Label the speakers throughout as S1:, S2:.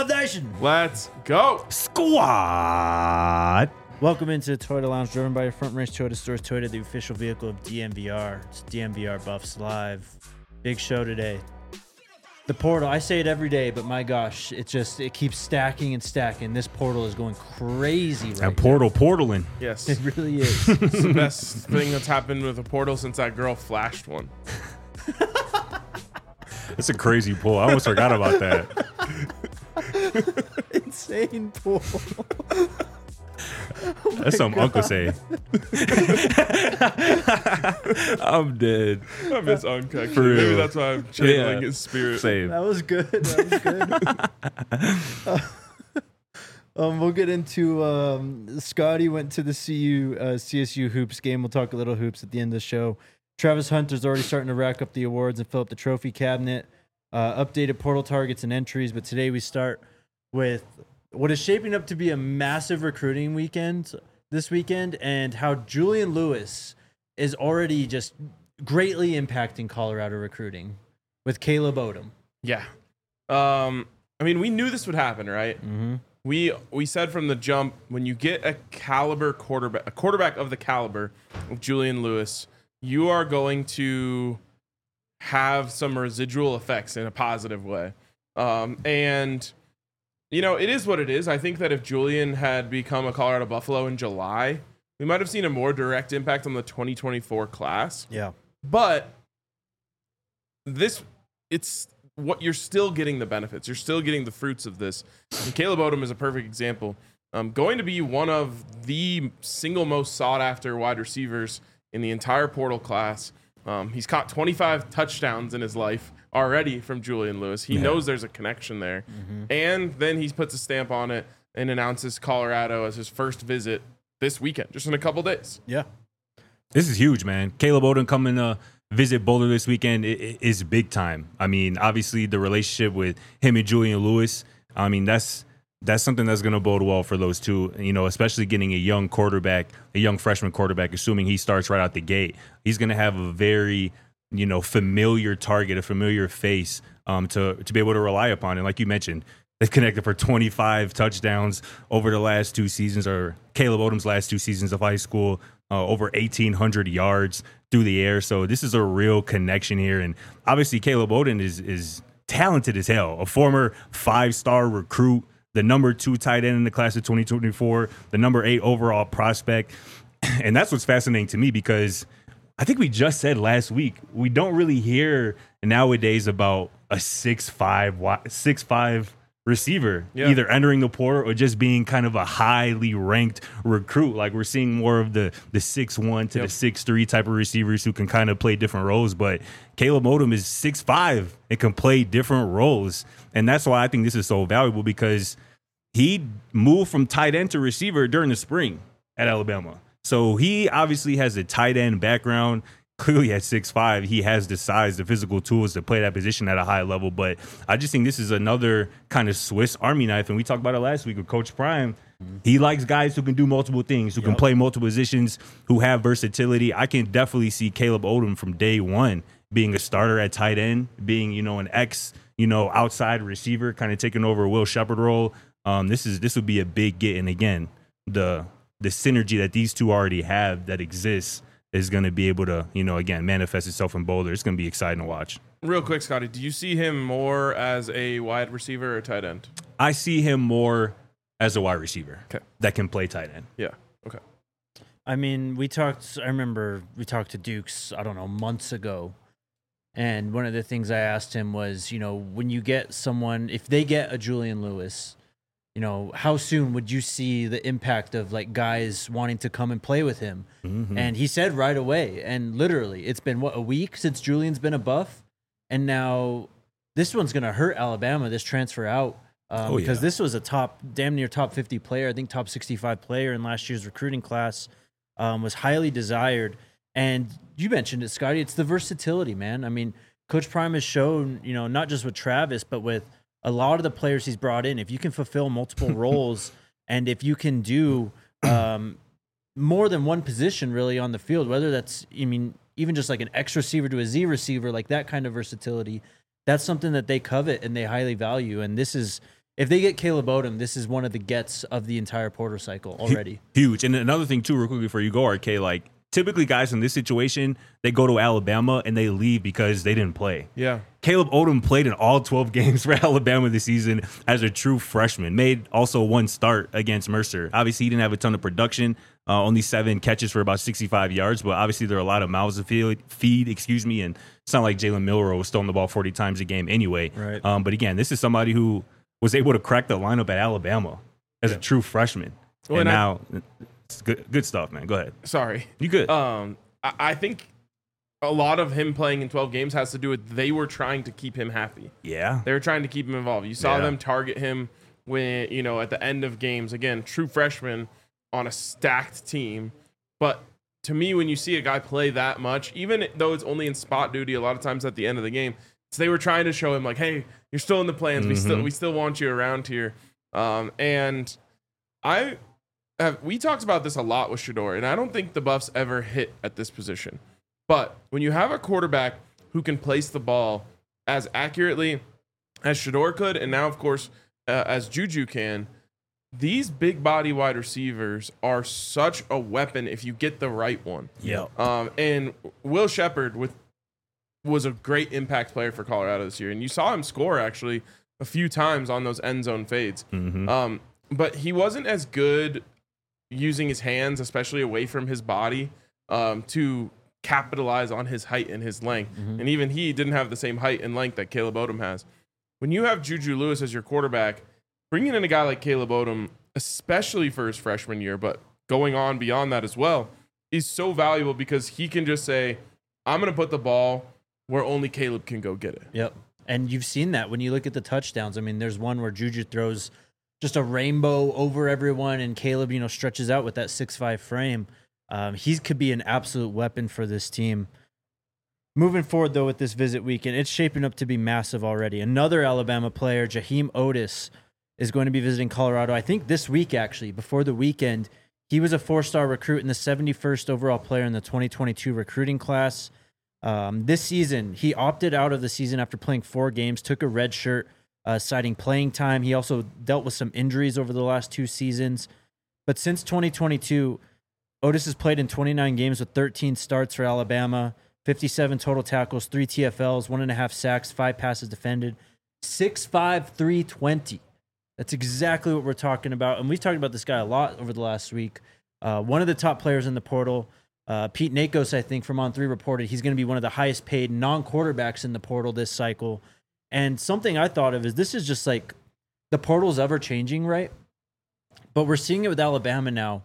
S1: Dub Nation.
S2: Let's go.
S3: Squad.
S1: Welcome into the Toyota Lounge, driven by your Front Range Toyota Stores. Toyota, the official vehicle of DMVR. It's DMVR Buffs Live. Big show today. The portal, I say it every day, but my gosh, it keeps stacking and stacking. This portal is going crazy right now.
S3: Portaling.
S2: Yes.
S1: It really is.
S2: It's the best thing that's happened with a portal since that girl flashed one.
S3: That's a crazy pull. I almost forgot about that.
S1: Insane pull.
S3: That's something Uncle say. I'm dead.
S2: I miss Unc, actually.
S3: For real.
S2: Maybe that's why I'm channeling
S3: Yeah.
S2: his spirit.
S3: Same.
S1: That was good. We'll get into Scotty went to the CSU hoops game. We'll talk a little hoops at the end of the show. Travis Hunter's already starting to rack up the awards and fill up the trophy cabinet. Updated portal targets and entries, but today we start with what is shaping up to be a massive recruiting weekend this weekend, and how Julian Lewis is already just greatly impacting Colorado recruiting with Caleb Odom.
S2: Yeah. I mean, we knew this would happen, right?
S1: Mm-hmm.
S2: We said from the jump, when you get a quarterback of the caliber of Julian Lewis, you are going to have some residual effects in a positive way. And, you know, it is what it is. I think that if Julian had become a Colorado Buffalo in July, we might have seen a more direct impact on the 2024 class.
S1: Yeah.
S2: But it's what you're still getting the benefits. You're still getting the fruits of this. And Caleb Odom is a perfect example. Going to be one of the single most sought after wide receivers in the entire portal class. He's caught 25 touchdowns in his life already from Julian Lewis. He knows there's a connection there. Mm-hmm. And then he puts a stamp on it and announces Colorado as his first visit this weekend, just in a couple days.
S1: Yeah.
S3: This is huge, man. Caleb Odom coming to visit Boulder this weekend is big time. I mean, obviously the relationship with him and Julian Lewis, I mean, that's something that's going to bode well for those two, you know, especially getting a young freshman quarterback, assuming he starts right out the gate. He's going to have a very, you know, familiar target, a familiar face to be able to rely upon. And like you mentioned, they've connected for 25 touchdowns over the last two seasons, or Caleb Odom's last two seasons of high school, over 1,800 yards through the air. So this is a real connection here. And obviously Caleb Odom is talented as hell, a former 5-star recruit, the number 2 tight end in the class of 2024, the number 8 overall prospect. And that's what's fascinating to me, because I think we just said last week, we don't really hear nowadays about a 6'5" receiver either entering the portal or just being kind of a highly ranked recruit. Like, we're seeing more of the 6'1" to the 6'3" type of receivers who can kind of play different roles. But Caleb Odom is 6'5" and can play different roles. And that's why I think this is so valuable, because he moved from tight end to receiver during the spring at Alabama. So he obviously has a tight end background. Clearly at 6'5", he has the size, the physical tools to play that position at a high level. But I just think this is another kind of Swiss Army knife. And we talked about it last week with Coach Prime. He likes guys who can do multiple things, who can play multiple positions, who have versatility. I can definitely see Caleb Odom from day one being a starter at tight end, being, you know, an outside receiver, kind of taking over a Will Shepherd role. This would be a big get. And again, the synergy that these two already have that exists is going to be able to, you know, again, manifest itself in Boulder. It's going to be exciting to watch.
S2: Real quick, Scotty, do you see him more as a wide receiver or tight end?
S3: I see him more as a wide receiver that can play tight end.
S2: Yeah. Okay.
S1: I mean, I remember we talked to Dukes, I don't know, months ago. And one of the things I asked him was, you know, when you get someone, if they get a Julian Lewis, you know, how soon would you see the impact of like guys wanting to come and play with him? Mm-hmm. And he said right away. And literally, it's been a week since Julian's been a Buff, and now this one's gonna hurt Alabama. This transfer out because this was a damn near top 50 player. I think top 65 player in last year's recruiting class, was highly desired. And you mentioned it, Scotty. It's the versatility, man. I mean, Coach Prime has shown, you know, not just with Travis, but with a lot of the players he's brought in, if you can fulfill multiple roles and if you can do more than one position really on the field, whether that's, I mean, even just like an X receiver to a Z receiver, like that kind of versatility, that's something that they covet and they highly value. And this is, if they get Caleb Odom, this is one of the gets of the entire Porter cycle already.
S3: Huge. And another thing too, real quick before you go, RK, like typically guys in this situation, they go to Alabama and they leave because they didn't play.
S2: Yeah.
S3: Caleb Odom played in all 12 games for Alabama this season as a true freshman. Made also one start against Mercer. Obviously, he didn't have a ton of production, only 7 catches for about 65 yards, but obviously there are a lot of mouths to feed, and it's not like Jalen Milroe was throwing the ball 40 times a game anyway.
S1: Right.
S3: But again, this is somebody who was able to crack the lineup at Alabama as a true freshman.
S2: Well,
S3: and now it's good stuff, man. Go ahead.
S2: Sorry.
S3: You good.
S2: I think a lot of him playing in 12 games has to do with they were trying to keep him happy.
S3: Yeah.
S2: They were trying to keep him involved. You saw them target him when, at the end of games. Again, true freshman on a stacked team. But to me, when you see a guy play that much, even though it's only in spot duty a lot of times at the end of the game, so they were trying to show him like, hey, you're still in the plans. We still want you around here. And we talked about this a lot with Shedeur, and I don't think the Buffs ever hit at this position. But when you have a quarterback who can place the ball as accurately as Shedeur could, and now, of course, as Juju can, these big body wide receivers are such a weapon if you get the right one.
S3: Yeah.
S2: And Will Shepherd was a great impact player for Colorado this year, and you saw him score actually a few times on those end zone fades. But he wasn't as good using his hands, especially away from his body, to capitalize on his height and his length. And even he didn't have the same height and length that Caleb Odom has. When you have Juju Lewis as your quarterback, bringing in a guy like Caleb Odom, especially for his freshman year, but going on beyond that as well, is so valuable because he can just say, I'm going to put the ball where only Caleb can go get it.
S1: Yep. And you've seen that when you look at the touchdowns. I mean, there's one where Juju throws just a rainbow over everyone, and Caleb, stretches out with that 6'5" frame. He could be an absolute weapon for this team. Moving forward, though, with this visit weekend, it's shaping up to be massive already. Another Alabama player, Jaheim Otis, is going to be visiting Colorado, I think this week, actually, before the weekend. He was a 4-star recruit and the 71st overall player in the 2022 recruiting class. This season, he opted out of the season after playing 4 games, took a red shirt, citing playing time. He also dealt with some injuries over the last 2 seasons. But since 2022, Otis has played in 29 games with 13 starts for Alabama, 57 total tackles, 3 TFLs, 1.5 sacks, 5 passes defended, 6'5", 320. That's exactly what we're talking about. And we've talked about this guy a lot over the last week. One of the top players in the portal, Pete Nakos, I think, from On3 reported he's going to be one of the highest paid non-quarterbacks in the portal this cycle. And something I thought of is this is just like the portal's ever changing, right? But we're seeing it with Alabama now,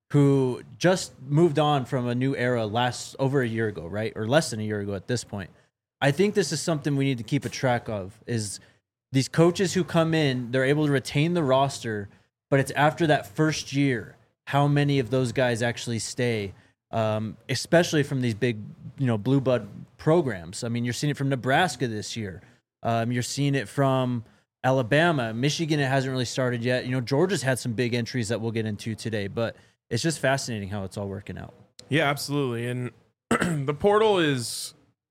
S1: who just moved on from a new era over a year ago, right? Or less than a year ago at this point. I think this is something we need to keep a track of, is these coaches who come in, they're able to retain the roster, but it's after that first year, how many of those guys actually stay, especially from these big, blue blood programs. I mean, you're seeing it from Nebraska this year. You're seeing it from Alabama. Michigan, it hasn't really started yet. Georgia's had some big entries that we'll get into today, but it's just fascinating how it's all working out.
S2: Yeah, absolutely. And the portal is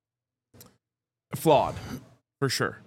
S2: flawed for sure.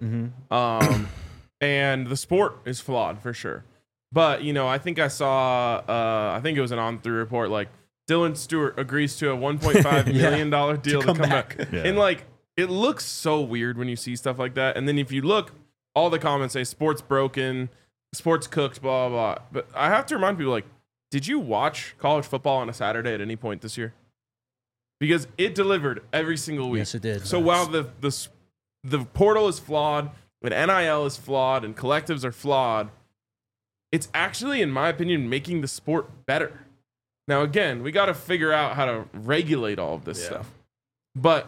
S2: And the sport is flawed for sure. But, I think I saw, I think it was an On3 report, like Dylan Stewart agrees to a $1.5 million deal to come back. Yeah. And it looks so weird when you see stuff like that. And then if you look, all the comments say sports broken, sports cooked, blah, blah, blah. But I have to remind people, did you watch college football on a Saturday at any point this year? Because it delivered every single week.
S1: Yes, it did.
S2: So while the portal is flawed, and NIL is flawed, and collectives are flawed, it's actually, in my opinion, making the sport better. Now, again, we got to figure out how to regulate all of this stuff. But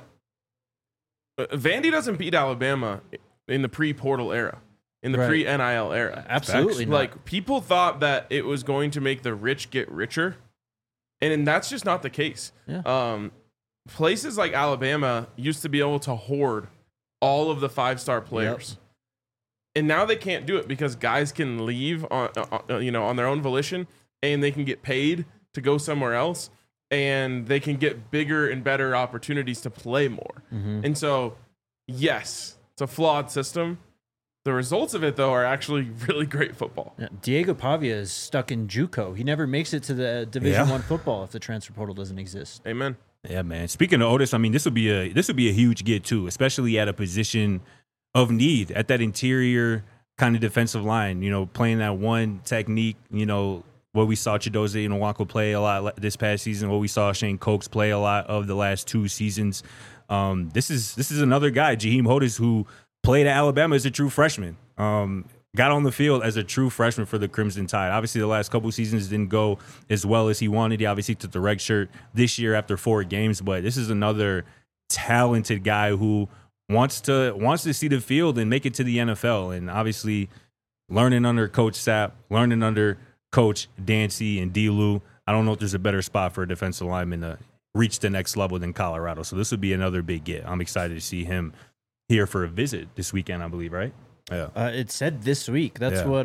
S2: Vandy doesn't beat Alabama in the pre-portal era, in the pre-NIL era.
S1: Absolutely not.
S2: People thought that it was going to make the rich get richer, and that's just not the case.
S1: Yeah.
S2: Places like Alabama used to be able to hoard all of the 5-star players. And now they can't do it because guys can leave on their own volition, and they can get paid to go somewhere else, and they can get bigger and better opportunities to play more. And so, yes, it's a flawed system, The results of it, though, are actually really great football.
S1: Yeah, Diego Pavia is stuck in JUCO. He never makes it to the Division I football if the transfer portal doesn't exist.
S2: Amen.
S3: Yeah, man. Speaking of Otis, I mean, this would be a huge get too, especially at a position of need at that interior kind of defensive line. You know, playing that one technique. You know, what we saw Chidozie Nwako play a lot this past season. What we saw Shane Cokes play a lot of the last 2 seasons. This is another guy, Jaheim Otis, who played at Alabama as a true freshman. Got on the field as a true freshman for the Crimson Tide. Obviously, the last couple seasons didn't go as well as he wanted. He obviously took the red shirt this year after 4 games, but this is another talented guy who wants to see the field and make it to the NFL. And obviously, learning under Coach Sapp, learning under Coach Dancy and D-Lou, I don't know if there's a better spot for a defensive lineman to reach the next level than Colorado. So this would be another big get. I'm excited to see him here for a visit this weekend, I believe, right? Yeah.
S1: It said this week. That's what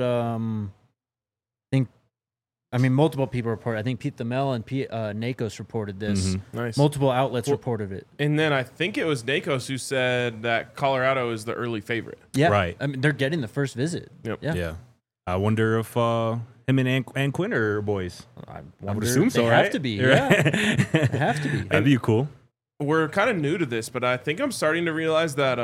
S1: multiple people report. I think Pete Thamel and Nakos reported this.
S3: Mm-hmm.
S2: Nice.
S1: Multiple outlets reported it.
S2: And then I think it was Nakos who said that Colorado is the early favorite.
S1: Yeah.
S3: Right.
S1: I mean, they're getting the first visit.
S2: Yep.
S1: Yeah.
S3: I wonder if him and Quinn are boys.
S1: I
S3: would assume so,
S1: they
S3: right?
S1: have to be. Yeah. They have to be.
S3: That'd be cool.
S2: We're kind of new to this, but I think I'm starting to realize that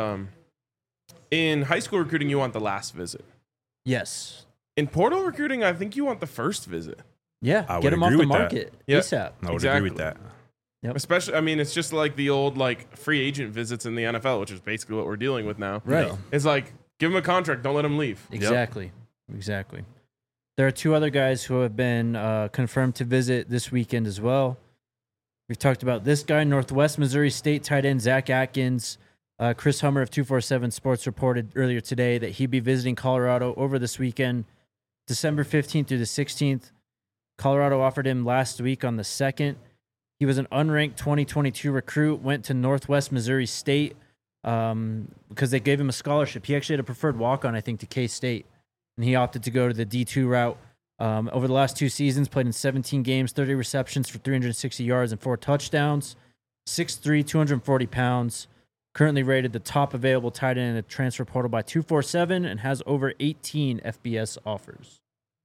S2: in high school recruiting, you want the last visit.
S1: Yes.
S2: In portal recruiting, I think you want the first visit.
S1: Yeah.
S3: I
S1: Get
S3: would
S1: them off
S3: agree
S1: the
S3: with that.
S1: market
S2: Yep.
S1: ASAP.
S3: I would
S2: Exactly.
S3: agree with that.
S1: Yep.
S2: Especially, I mean, it's just like the old free agent visits in the NFL, which is basically what we're dealing with now.
S1: Right.
S3: Yeah.
S2: It's like, give them a contract, don't let them leave.
S1: Exactly. There are 2 other guys who have been confirmed to visit this weekend as well. We've talked about this guy, Northwest Missouri State tight end Zach Atkins. Chris Hummer of 247 Sports reported earlier today that he'd be visiting Colorado over this weekend, December 15th through the 16th. Colorado offered him last week on the 2nd. He was an unranked 2022 recruit, went to Northwest Missouri State because they gave him a scholarship. He actually had a preferred walk-on, I think, to K-State, and he opted to go to the D2 route. Over the last 2 seasons, played in 17 games, 30 receptions for 360 yards and 4 touchdowns. 6'3", 240 pounds. Currently rated the top available tight end in the transfer portal by 247 and has over 18 FBS offers.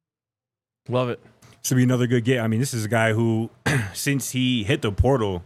S2: Love it.
S3: This would be another good get. I mean, this is a guy who, since he hit the portal,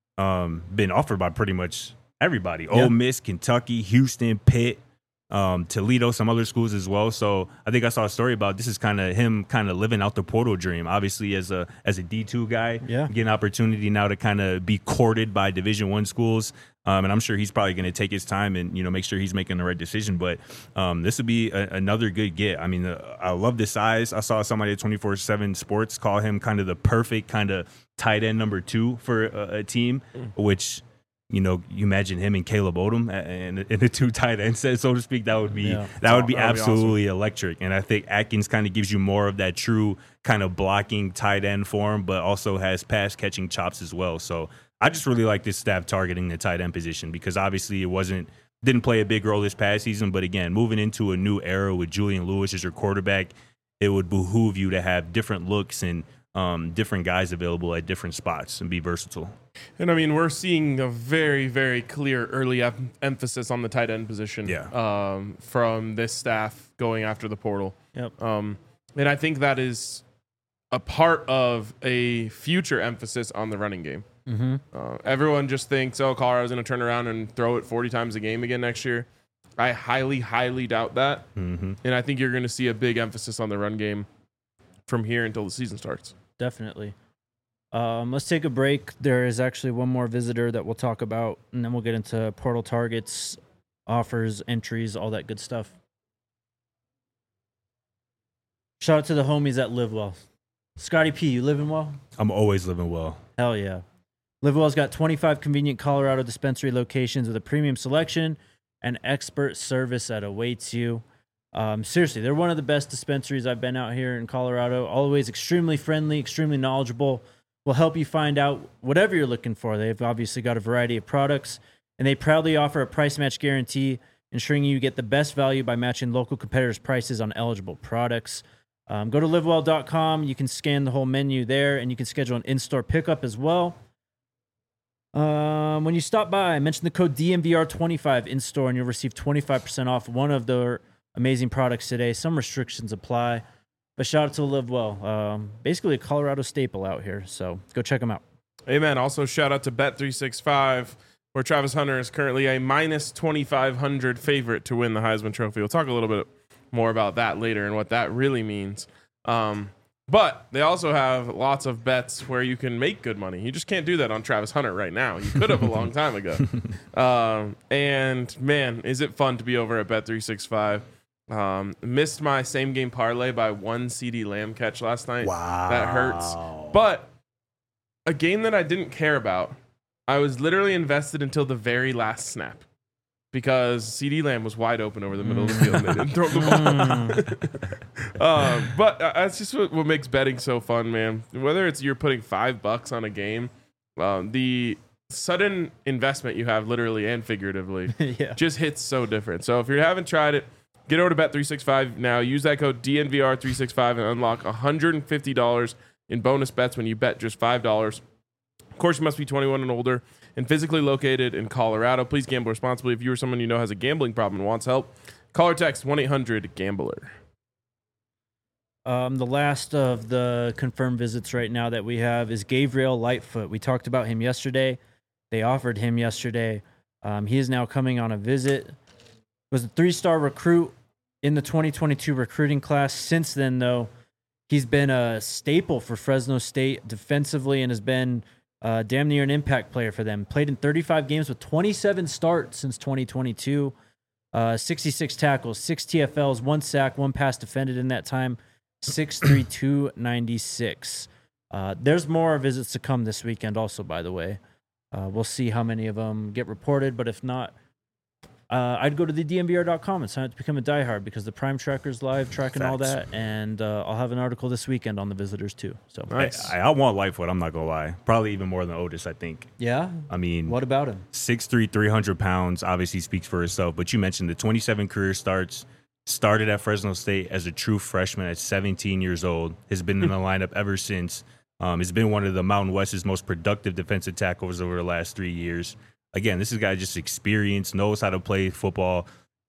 S3: been offered by pretty much everybody.
S1: Yeah.
S3: Ole Miss, Kentucky, Houston, Pitt, Toledo, some other schools as well. So I think I saw a story about this is kind of him kind of living out the portal dream. Obviously, as a D2 guy, getting an opportunity now to kind of be courted by Division I schools. And I'm sure he's probably going to take his time and make sure he's making the right decision. But this would be another good get. I mean, I love the size. I saw somebody at 24/7 Sports call him kind of the perfect kind of tight end number 2 for a team, which. You imagine him and Caleb Odom in the 2 tight end set, so to speak. That would be absolutely
S2: awesome.
S3: Electric. And I think Atkins kind of gives you more of that true kind of blocking tight end form, but also has pass catching chops as well. So I just really like this staff targeting the tight end position because obviously it didn't play a big role this past season. But again, moving into a new era with Julian Lewis as your quarterback, it would behoove you to have different looks and different guys available at different spots and be versatile.
S2: And I mean, we're seeing a very, very clear early emphasis on the tight end position from this staff going after the portal.
S1: Yep.
S2: And I think that is a part of a future emphasis on the running game.
S1: Mm-hmm.
S2: Everyone just thinks, Colorado's going to turn around and throw it 40 times a game again next year. I highly, highly doubt that.
S3: Mm-hmm.
S2: And I think you're going to see a big emphasis on the run game from here until the season starts.
S1: Definitely. Let's take a break. There is actually one more visitor that we'll talk about, and then we'll get into portal targets, offers, entries, all that good stuff. Shout out to the homies at Live Well. Scotty P, you living well?
S3: I'm always living well.
S1: Hell yeah. Live Well's got 25 convenient Colorado dispensary locations with a premium selection and expert service that awaits you. Seriously, they're one of the best dispensaries I've been out here in Colorado. Always extremely friendly, extremely knowledgeable. Will help you find out whatever you're looking for. They've obviously got a variety of products, and they proudly offer a price match guarantee, ensuring you get the best value by matching local competitors' prices on eligible products. Go to livewell.com. You can scan the whole menu there, and you can schedule an in-store pickup as well. When you stop by, mention the code DMVR25 in-store, and you'll receive 25% off one of their Amazing products today. Some restrictions apply. But shout out to Live Well. Basically a Colorado staple out here. So go check them out.
S2: Amen. Also, shout out to Bet365, where Travis Hunter is currently a minus 2,500 favorite to win the Heisman Trophy. We'll talk a little bit more about that later and what that really means. But they also have lots of bets where you can make good money. You just can't do that on Travis Hunter right now. You could have a long time ago. And man, is it fun to be over at Bet365. Missed my same game parlay by one CeeDee Lamb catch last night.
S3: Wow.
S2: That hurts. But a game that I didn't care about, I was literally invested until the very last snap because CeeDee Lamb was wide open over the middle of the field and they didn't throw the ball. But that's just what makes betting so fun, man. Whether it's you're putting $5 on a game, the sudden investment you have literally and figuratively just hits so different. So if you haven't tried it, get over to Bet365 now. Use that code DNVR365 and unlock $150 in bonus bets when you bet just $5. Of course, you must be 21 and older and physically located in Colorado. Please gamble responsibly. If you or someone you know has a gambling problem and wants help, call or text 1-800-GAMBLER.
S1: The last of the confirmed visits right now that we have is Gabriel Lightfoot. We talked about him yesterday. They offered him yesterday. He is now coming on a visit. Was a 3-star recruit in the 2022 recruiting class. Since then, though, he's been a staple for Fresno State defensively and has been damn near an impact player for them. Played in 35 games with 27 starts since 2022. 66 tackles, 6 TFLs, 1 sack, 1 pass defended in that time. 6'3", 296. There's more visits to come this weekend also, by the way. We'll see how many of them get reported, but if not, I'd go to the DNVR.com and sign up to become a diehard because the Prime Tracker's live tracking all that, and I'll have an article this weekend on the visitors too. So
S2: nice.
S3: I want Lightfoot, I'm not going to lie. Probably even more than Otis, I think.
S1: Yeah?
S3: I mean,
S1: what about him?
S3: 6'3", 300 pounds, obviously speaks for itself, but you mentioned the 27 career starts. Started at Fresno State as a true freshman at 17 years old. Has been in the lineup ever since. Has been one of the Mountain West's most productive defensive tackles over the last 3 years. Again, this is a guy just experienced, knows how to play football,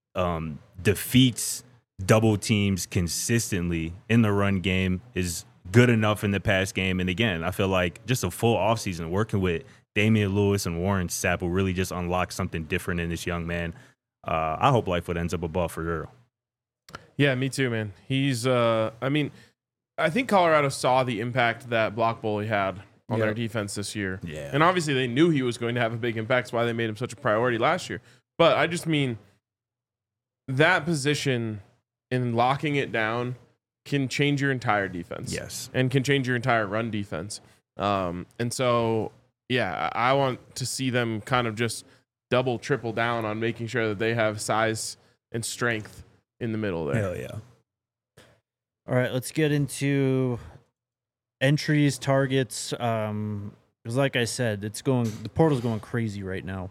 S3: defeats double teams consistently in the run game, is good enough in the pass game. And again, I feel like just a full offseason working with Damian Lewis and Warren Sapp will really just unlock something different in this young man. I hope Lightfoot ends up above for real.
S2: Yeah, me too, man. He's, I think Colorado saw the impact that Block Bully had on their defense this year.
S3: Yeah.
S2: And obviously they knew he was going to have a big impact. That's why they made him such a priority last year. But I just mean that position in locking it down can change your entire defense.
S3: Yes.
S2: And can change your entire run defense. And so, yeah, I want to see them kind of just double, triple down on making sure that they have size and strength in the middle there.
S3: Hell yeah.
S1: All right, let's get into entries, targets. Because like I said, the portal's going crazy right now.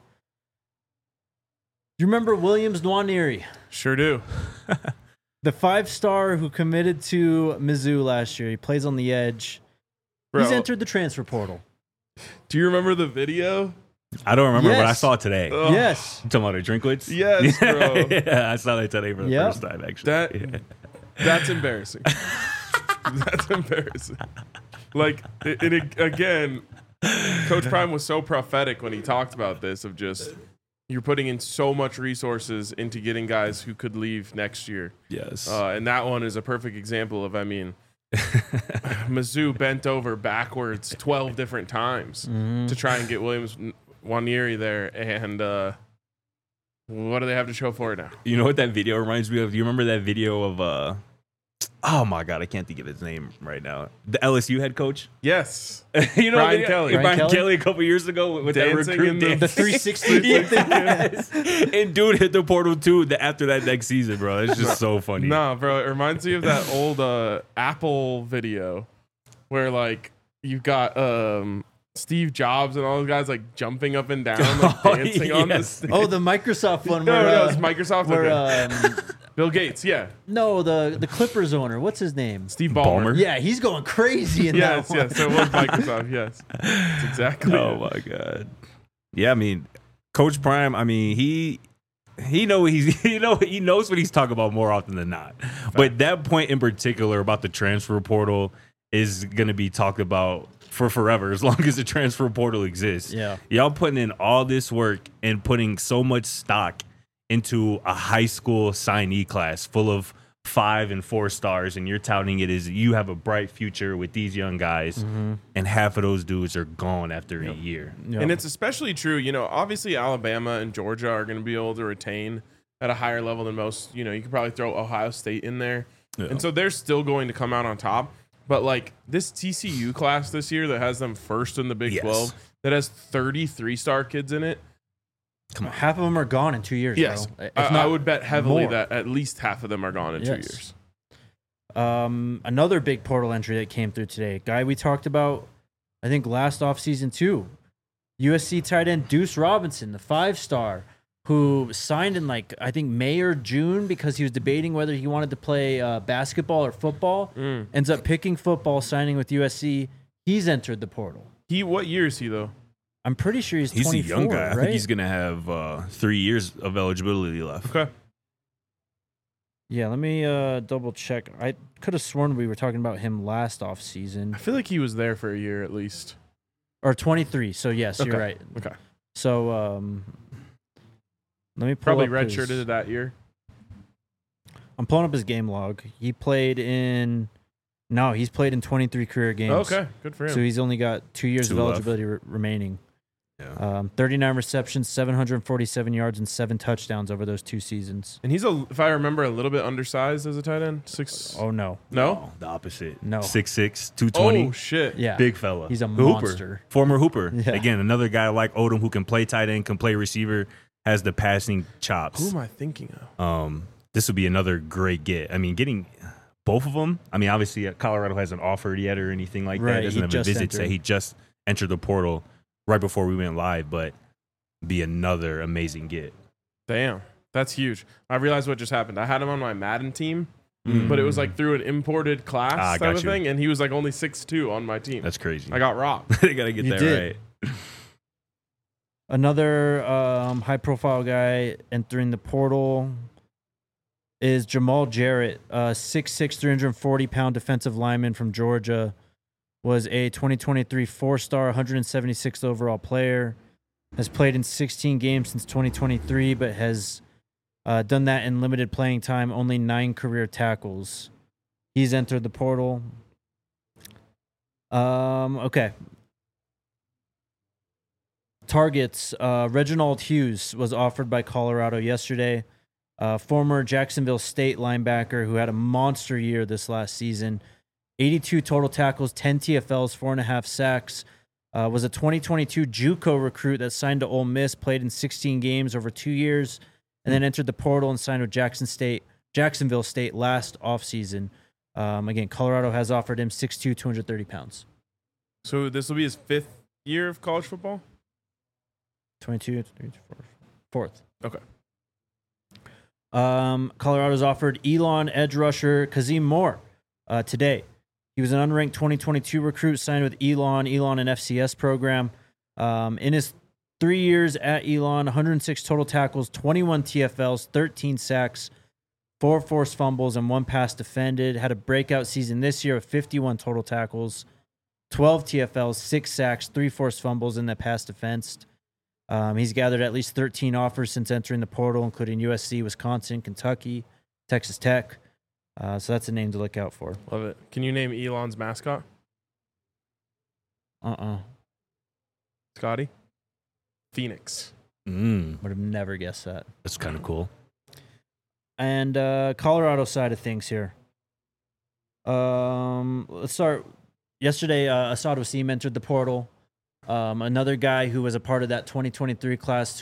S1: Do you remember Williams Nwaneri?
S2: Sure do.
S1: The 5-star who committed to Mizzou last year. He plays on the edge.
S2: Bro,
S1: He's entered the transfer portal.
S2: do you remember the video?
S3: I don't remember what I
S1: Yes.
S3: saw today.
S2: Ugh.
S1: Yes.
S3: You talking about the Drinkwitz?
S2: Yes, bro.
S3: Yeah, I saw that today for the
S1: Yep.
S3: first time, actually.
S2: That's embarrassing. That's embarrassing. Like, again, Coach Prime was so prophetic when he talked about this of just you're putting in so much resources into getting guys who could leave next year.
S3: Yes.
S2: And that one is a perfect example of, Mizzou bent over backwards 12 different times to try and get Williams Nwaneri there. And what do they have to show for it now?
S3: You know what that video reminds me of? You remember that video of oh my God, I can't think of his name right now. The LSU head coach.
S2: Yes.
S3: You know,
S2: Brian Kelly.
S3: Brian Kelly a couple years ago with that
S2: Dancing
S3: recruit
S2: in the-
S3: dance.
S1: The 360
S3: Yes. And dude hit the portal too after that next season, bro. It's just so funny.
S2: No, bro, it reminds me of that old Apple video where like you've got Steve Jobs and all those guys like jumping up and down, like dancing on the
S3: yes.
S2: stage.
S1: Oh, the Microsoft one.
S2: No,
S1: where,
S2: it's Microsoft.
S1: Where,
S2: Okay. Bill Gates, yeah.
S1: no, the Clippers owner. What's his name?
S2: Steve Ballmer.
S3: Ballmer?
S1: Yeah, he's going crazy in
S2: Yes,
S1: that one.
S2: yes. So it was Microsoft, yes. That's exactly
S3: Oh
S2: it.
S3: my God. Yeah, I mean, Coach Prime, I mean, he he knows what he's talking about more often than not. But that point in particular about the transfer portal is going to be talked about for forever, as long as the transfer portal exists.
S1: Yeah.
S3: Y'all putting in all this work and putting so much stock into a high school signee class full of 5 and 4 stars, and you're touting it as you have a bright future with these young guys, and half of those dudes are gone after a year.
S1: Yep.
S2: And it's especially true, obviously Alabama and Georgia are going to be able to retain at a higher level than most. You could probably throw Ohio State in there.
S3: Yeah.
S2: And so they're still going to come out on top. But like this TCU class this year that has them first in the Big 12, that has 33-star kids in it.
S1: Half of them are gone in 2 years.
S2: Yes.
S1: Bro.
S2: I would bet heavily
S1: more.
S2: that at least half of them are gone in 2 years.
S1: Another big portal entry that came through today, guy we talked about, I think last offseason too, USC tight end Deuce Robinson, the 5-star, who signed in I think May or June because he was debating whether he wanted to play basketball or football. Ends up picking football, signing with USC. He's entered the portal.
S2: What year is he though?
S1: I'm pretty sure he's 24,
S3: a young guy.
S1: right?
S3: I think he's going to have 3 years of eligibility left.
S2: Okay.
S1: Yeah, let me double check. I could have sworn we were talking about him last offseason.
S2: I feel like he was there for a year at least.
S1: Or 23. So, yes,
S2: Okay.
S1: you're right.
S2: Okay.
S1: So, let me pull
S2: Probably
S1: up his-
S2: redshirted that year.
S1: I'm pulling up his game log. He's played in 23 career games.
S2: Okay, good for him.
S1: So he's only got 2 years
S3: 2
S1: of
S3: left.
S1: eligibility remaining.
S3: Yeah.
S1: 39 receptions, 747 yards, and 7 touchdowns over those 2 seasons.
S2: And he's if I remember, a little bit undersized as a tight end. 6.
S1: Oh, no.
S2: No.
S3: The opposite.
S1: No.
S3: 6'6", 220.
S2: Oh shit.
S1: Yeah.
S3: Big fella.
S1: He's a
S3: Hooper.
S1: monster.
S3: Former Hooper.
S1: Yeah.
S3: Again, another guy like Odom who can play tight end, can play receiver, has the passing
S2: Who
S3: chops.
S2: am I thinking of?
S3: This would be another great get. I mean, getting both of them. I mean, obviously, Colorado hasn't offered yet or anything like
S1: Right,
S3: that. Doesn't
S1: he
S3: have a
S1: just
S3: visit
S1: entered.
S3: say he just entered the portal right before we went live, but be another amazing get.
S2: Damn, that's huge. I realized what just happened. I had him on my Madden team, but it was like through an imported class type
S3: got
S2: of
S3: you.
S2: thing, and he was like only 6'2" on my team.
S3: That's crazy.
S2: I got robbed.
S3: they gotta get
S1: You
S3: that
S1: did.
S3: right.
S1: Another high-profile guy entering the portal is Jamal Jarrett, 6'6", 340-pound defensive lineman from Georgia. Was a 2023 4-star, 176th overall player. Has played in 16 games since 2023, but has done that in limited playing time, only 9 career tackles. He's entered the portal. Okay. Targets. Reginald Hughes was offered by Colorado yesterday. Former Jacksonville State linebacker who had a monster year this last season. 82 total tackles, 10 TFLs, 4.5 sacks. Was a 2022 JUCO recruit that signed to Ole Miss, played in 16 games over 2 years, and then entered the portal and signed with Jacksonville State last offseason. Again, Colorado has offered him 6'2", 230 pounds.
S2: So this will be his 5th year of college football?
S1: 22, 4th.
S2: Okay.
S1: Colorado's offered Elon edge rusher Kazim Moore today. He was an unranked 2022 recruit signed with Elon an FCS program. In his 3 years at Elon, 106 total tackles, 21 TFLs, 13 sacks, 4 forced fumbles, and 1 pass defended. Had a breakout season this year of 51 total tackles, 12 TFLs, 6 sacks, 3 forced fumbles, and that pass defensed. He's gathered at least 13 offers since entering the portal, including USC, Wisconsin, Kentucky, Texas Tech. So that's a name to look out for.
S2: Love it. Can you name Elon's mascot? Scotty? Phoenix.
S1: Would have never guessed that.
S3: That's kind of cool.
S1: And Colorado side of things here. Let's start. Yesterday, Asad Wasim entered the portal. Another guy who was a part of that 2023 class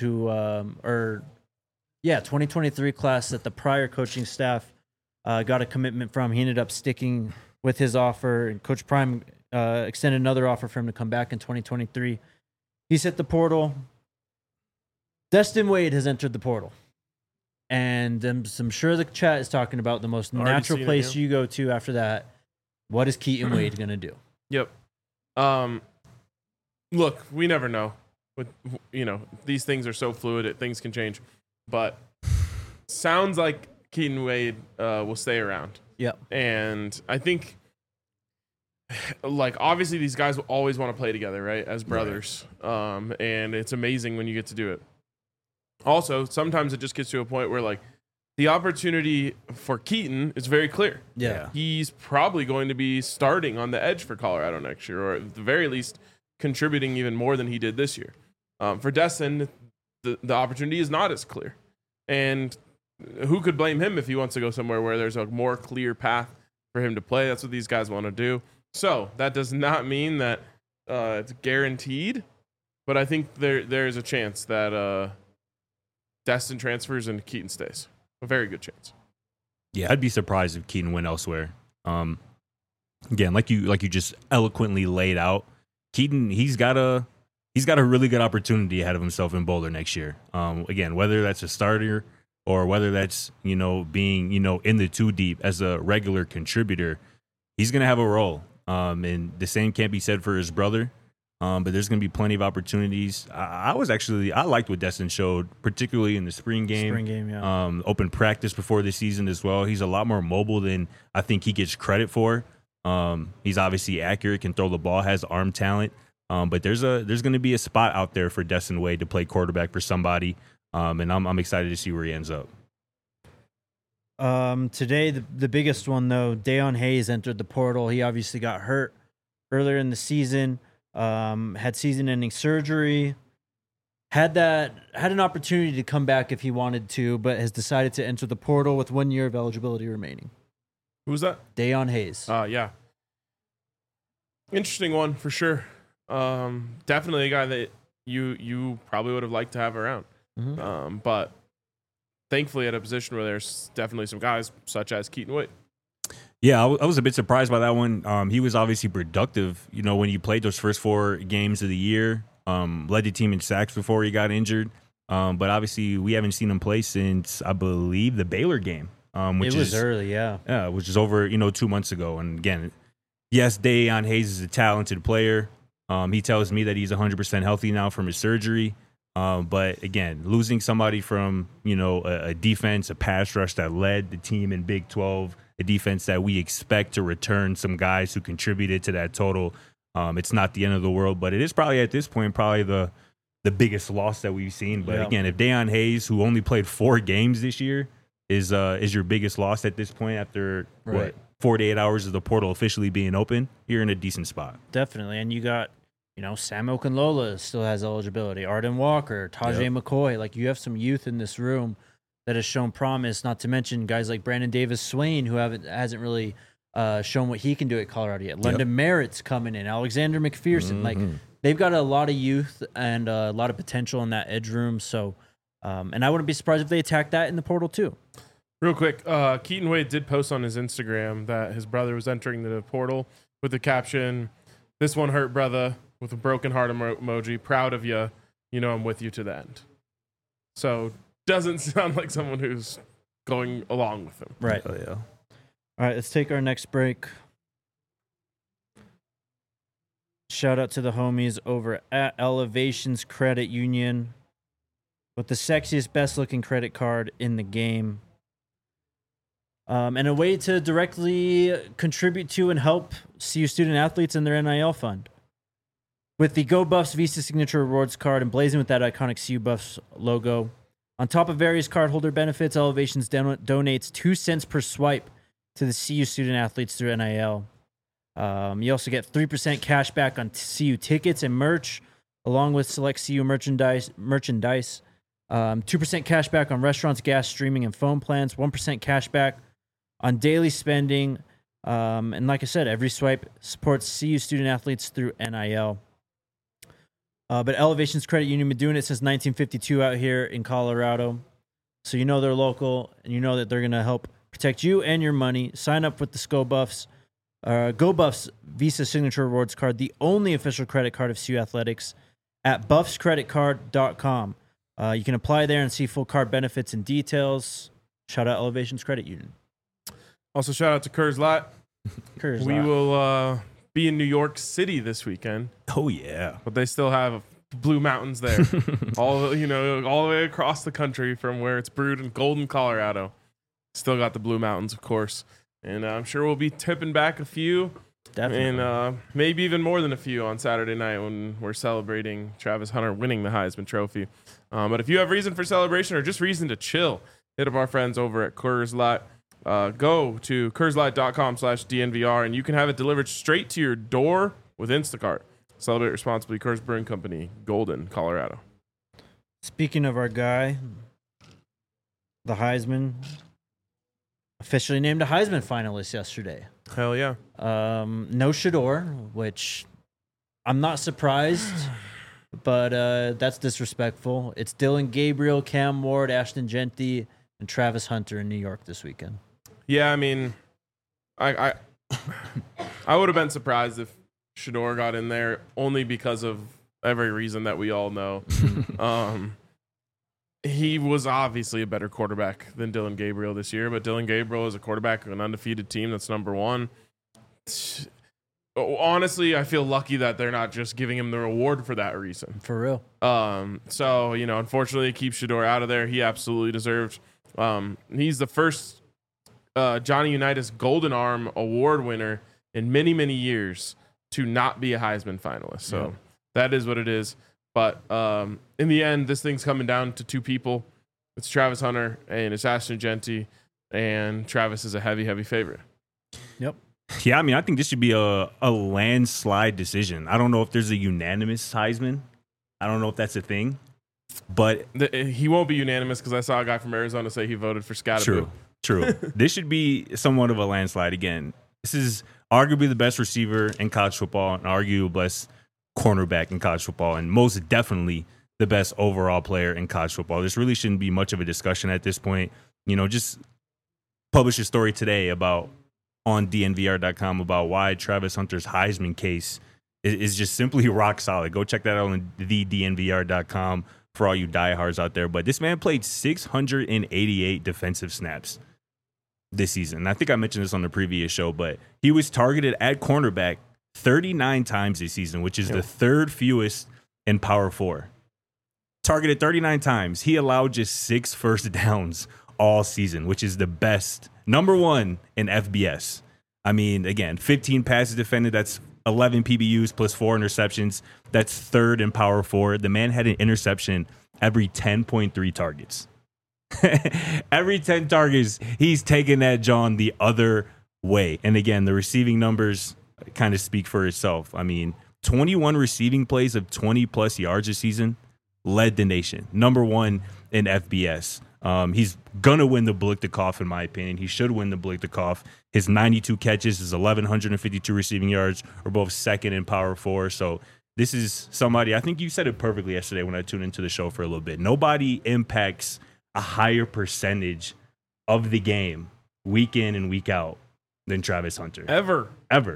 S1: 2023 class that the prior coaching staff got a commitment from. He ended up sticking with his offer, and Coach Prime extended another offer for him to come back in 2023. He's hit the portal. Destin Wade has entered the portal. And I'm sure the chat is talking about the most
S2: Already
S1: natural
S2: seen it,
S1: place
S2: yeah.
S1: you go to after that. What is Keaton Wade going to do?
S2: Yep. Look, we never know. These things are so fluid, things can change. But sounds like Keaton Wade will stay around.
S1: Yep.
S2: And I think, like, obviously these guys will always want to play together, right, as brothers. Right. And it's amazing when you get to do it. Also, sometimes it just gets to a point where, like, the opportunity for Keaton is very clear.
S1: Yeah.
S2: He's probably going to be starting on the edge for Colorado next year, or at the very least contributing even more than he did this year. For Destin, the opportunity is not as clear. And who could blame him if he wants to go somewhere where there's a more clear path for him to play? That's what these guys want to do. So that does not mean that it's guaranteed, but I think there's a chance that Destin transfers and Keaton stays. A very good chance.
S3: Yeah, I'd be surprised if Keaton went elsewhere. Again, like you just eloquently laid out, Keaton, he's got a really good opportunity ahead of himself in Boulder next year. Again, whether that's a starter or whether that's, being, in the 2 deep as a regular contributor, he's going to have a role. And the same can't be said for his brother. But there's going to be plenty of opportunities. I liked what Destin showed, particularly in the spring game.
S1: Yeah.
S3: Open practice before the season as well. He's a lot more mobile than I think he gets credit for. He's obviously accurate, can throw the ball, has arm talent. But there's going to be a spot out there for Destin Wade to play quarterback for somebody. And I'm excited to see where he ends up.
S1: Today, the biggest one, though, Dayon Hayes entered the portal. He obviously got hurt earlier in the season. Had season-ending surgery, had an opportunity to come back if he wanted to, but has decided to enter the portal with 1 year of eligibility remaining.
S2: Who's that?
S1: Dayon Hayes.
S2: Yeah. Interesting one for sure. Definitely a guy that you probably would have liked to have around. Mm-hmm. But thankfully at a position where there's definitely some guys such as Keaton Wade.
S3: Yeah, I was a bit surprised by that one. He was obviously productive, when he played those first 4 games of the year, led the team in sacks before he got injured. But obviously we haven't seen him play since, I believe, the Baylor game. Which
S1: was early, yeah.
S3: Yeah, which is over, 2 months ago. And again, yes, Dayon Hayes is a talented player. He tells me that he's 100% healthy now from his surgery. But again, losing somebody from, a defense, a pass rush that led the team in Big 12, a defense that we expect to return some guys who contributed to that total. It's not the end of the world, but it is probably at this point the biggest loss that we've seen. But again, if Dayon Hayes, who only played 4 games this year, is your biggest loss at this point after 48 hours of the portal officially being open, you're in a decent spot.
S1: Definitely, and you got Sam Okunlola still has eligibility, Arden Walker, Tajay McCoy. Like, you have some youth in this room that has shown promise, not to mention guys like Brandon Davis-Swain, who hasn't really shown what he can do at Colorado yet. London Merritt's coming in, Alexander McPherson. Like, they've got a lot of youth and a lot of potential in that edge room. So, and I wouldn't be surprised if they attack that in the portal too.
S2: Real quick, Keaton Wade did post on his Instagram that his brother was entering the portal with the caption, "This one hurt, brother," with a broken heart emoji. "Proud of you. I'm with you to the end." So, doesn't sound like someone who's going along with him.
S1: Right.
S3: Oh, yeah.
S1: All right, let's take our next break. Shout out to the homies over at Elevations Credit Union with the sexiest, best-looking credit card in the game. And a way to directly contribute to and help CU student athletes in their NIL fund. With the Go Buffs Visa Signature Rewards card emblazoned with that iconic CU Buffs logo. On top of various cardholder benefits, Elevations donates 2 cents per swipe to the CU student athletes through NIL. You also get 3% cash back on CU tickets and merch, along with select CU merchandise. 2% cash back on restaurants, gas, streaming, and phone plans. 1% cash back on daily spending. And like I said, every swipe supports CU student athletes through NIL. But Elevations Credit Union been doing it since 1952 out here in Colorado. So they're local, and that they're going to help protect you and your money. Sign up with the Go Buffs Visa Signature Rewards card, the only official credit card of CU Athletics, at buffscreditcard.com. You can apply there and see full card benefits and details. Shout out Elevations Credit Union.
S2: Also, shout out to Kurz Lot.
S1: We
S2: will be in New York City this weekend.
S3: Oh, yeah.
S2: But they still have Blue Mountains there, all the way across the country from where it's brewed in Golden, Colorado. Still got the Blue Mountains, of course, and I'm sure we'll be tipping back a few,
S1: Definitely.
S2: and maybe even more than a few on Saturday night when we're celebrating Travis Hunter winning the Heisman Trophy. But if you have reason for celebration or just reason to chill, hit up our friends over at Coors Light. Go to CoorsLight.com/DNVR and you can have it delivered straight to your door with Instacart. Celebrate responsibly. Coors Brewing Company, Golden, Colorado.
S1: Speaking of our guy, the Heisman, officially named a Heisman finalist yesterday.
S2: Hell yeah.
S1: No Shador, which I'm not surprised, but that's disrespectful. It's Dylan Gabriel, Cam Ward, Ashton Genty, and Travis Hunter in New York this weekend.
S2: Yeah, I mean, I would have been surprised if Shador got in there only because of every reason that we all know. He was obviously a better quarterback than Dylan Gabriel this year, but Dylan Gabriel is a quarterback of an undefeated team that's number one. Honestly, I feel lucky that they're not just giving him the reward for that reason.
S1: For real.
S2: So, unfortunately, keep Shador out of there. He absolutely deserved. He's the first Johnny Unitas Golden Arm Award winner in many, many years to not be a Heisman finalist. So that is what it is. But in the end, this thing's coming down to two people. It's Travis Hunter and it's Ashton Genty, and Travis is a heavy, heavy favorite.
S1: Yep.
S3: Yeah, I mean, I think this should be a landslide decision. I don't know if there's a unanimous Heisman. I don't know if that's a thing. But
S2: he won't be unanimous because I saw a guy from Arizona say he voted for Scatterboo.
S3: True. This should be somewhat of a landslide again. This is arguably the best receiver in college football and arguably the best cornerback in college football and most definitely the best overall player in college football. This really shouldn't be much of a discussion at this point. Just published a story today on DNVR.com about why Travis Hunter's Heisman case is just simply rock solid. Go check that out on DNVR.com for all you diehards out there. But this man played 688 defensive snaps this season. I think I mentioned this on the previous show, but he was targeted at cornerback 39 times this season, which is the third fewest in Power 4. Targeted 39 times. He allowed just 6 first downs all season, which is the best. Number one in FBS. I mean, again, 15 passes defended. That's 11 PBUs plus 4 interceptions. That's third in Power 4. The man had an interception every 10.3 targets. Every 10 targets, he's taking that John the other way. And again, the receiving numbers kind of speak for itself. I mean, 21 receiving plays of 20-plus yards this season led the nation. Number one in FBS. He's going to win the Biletnikoff, in my opinion. He should win the Biletnikoff. His 92 catches, his 1,152 receiving yards are both second in Power 4. So this is somebody, I think you said it perfectly yesterday when I tuned into the show for a little bit. Nobody impacts a higher percentage of the game week in and week out than Travis Hunter.
S2: Ever.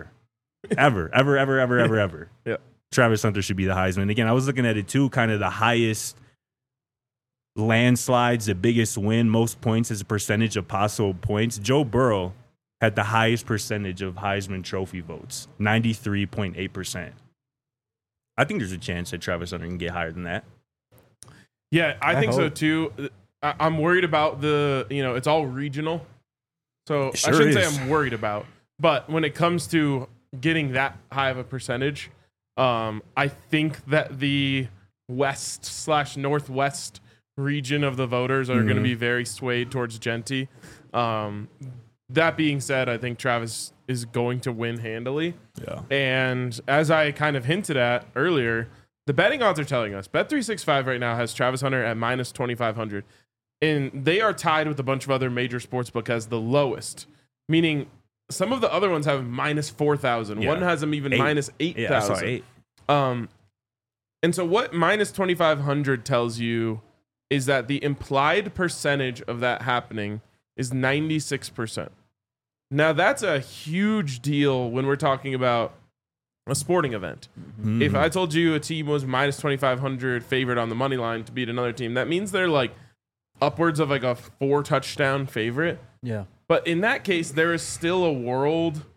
S3: Yeah. Travis Hunter should be the Heisman. Again, I was looking at it too, kind of the highest landslides, the biggest win, most points as a percentage of possible points. Joe Burrow had the highest percentage of Heisman Trophy votes, 93.8%. I think there's a chance that Travis Hunter can get higher than that.
S2: Yeah, I think so too. I'm worried about it's all regional. So
S3: Sure
S2: I shouldn't
S3: is.
S2: say I'm worried about, but when it comes to getting that high of a percentage, I think that the west/northwest region of the voters are going to be very swayed towards Genty. That being said, I think Travis is going to win handily.
S3: Yeah.
S2: And as I kind of hinted at earlier, the betting odds are telling us Bet365 right now has Travis Hunter at minus 2,500. And they are tied with a bunch of other major sportsbook as the lowest, meaning some of the other ones have minus 4,000.
S3: Yeah.
S2: One has them even minus 8,000.
S3: Yeah, I saw 8.
S2: And so what minus 2,500 tells you is that the implied percentage of that happening is 96%. Now, that's a huge deal when we're talking about a sporting event.
S3: Mm-hmm.
S2: If I told you a team was minus 2,500 favored on the money line to beat another team, that means they're like upwards of like a 4 touchdown favorite.
S1: Yeah.
S2: But in that case, there is still a world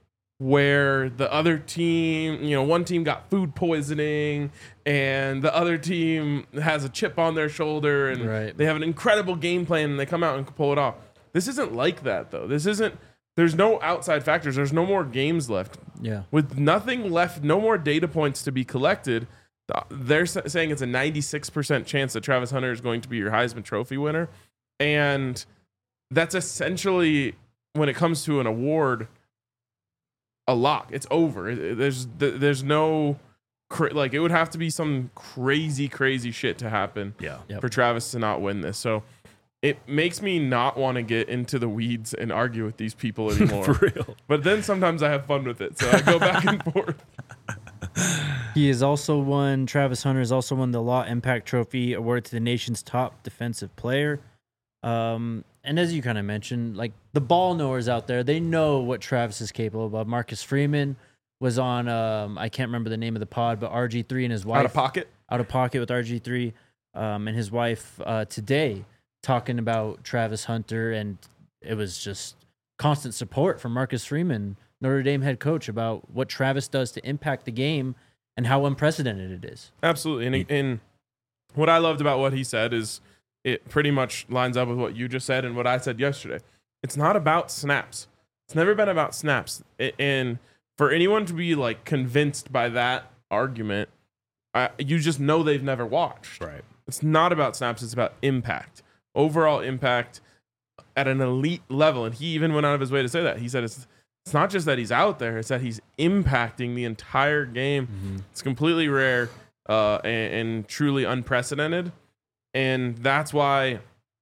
S2: where the other team, one team got food poisoning and the other team has a chip on their shoulder and they have an incredible game plan and they come out and pull it off. This isn't like that, though. There's no outside factors. There's no more games left.
S1: Yeah.
S2: With nothing left, no more data points to be collected, they're saying it's a 96% chance that Travis Hunter is going to be your Heisman Trophy winner. And that's essentially, when it comes to an award, a lock. It's over. There's no it would have to be some crazy shit to happen for Travis to not win this. So it makes me not want to get into the weeds and argue with these people anymore.
S3: For real.
S2: But then sometimes I have fun with it, so I go back and forth.
S1: Travis Hunter has also won the Law Impact Trophy, awarded to the nation's top defensive player. And as you kind of mentioned, like the ball knowers out there, they know what Travis is capable of. Marcus Freeman was on, I can't remember the name of the pod, but RG3 and his wife. Out of Pocket with RG3 and his wife today talking about Travis Hunter. And it was just constant support from Marcus Freeman, Notre Dame head coach, about what Travis does to impact the game and how unprecedented it is.
S2: Absolutely. And what I loved about what he said is, it pretty much lines up with what you just said and what I said yesterday. It's not about snaps. It's never been about snaps. And for anyone to be like convinced by that argument, you just know they've never watched.
S3: Right.
S2: It's not about snaps. It's about impact, overall impact at an elite level. And he even went out of his way to say that. He said it's not just that he's out there. It's that he's impacting the entire game. Mm-hmm. It's completely rare and truly unprecedented. And that's why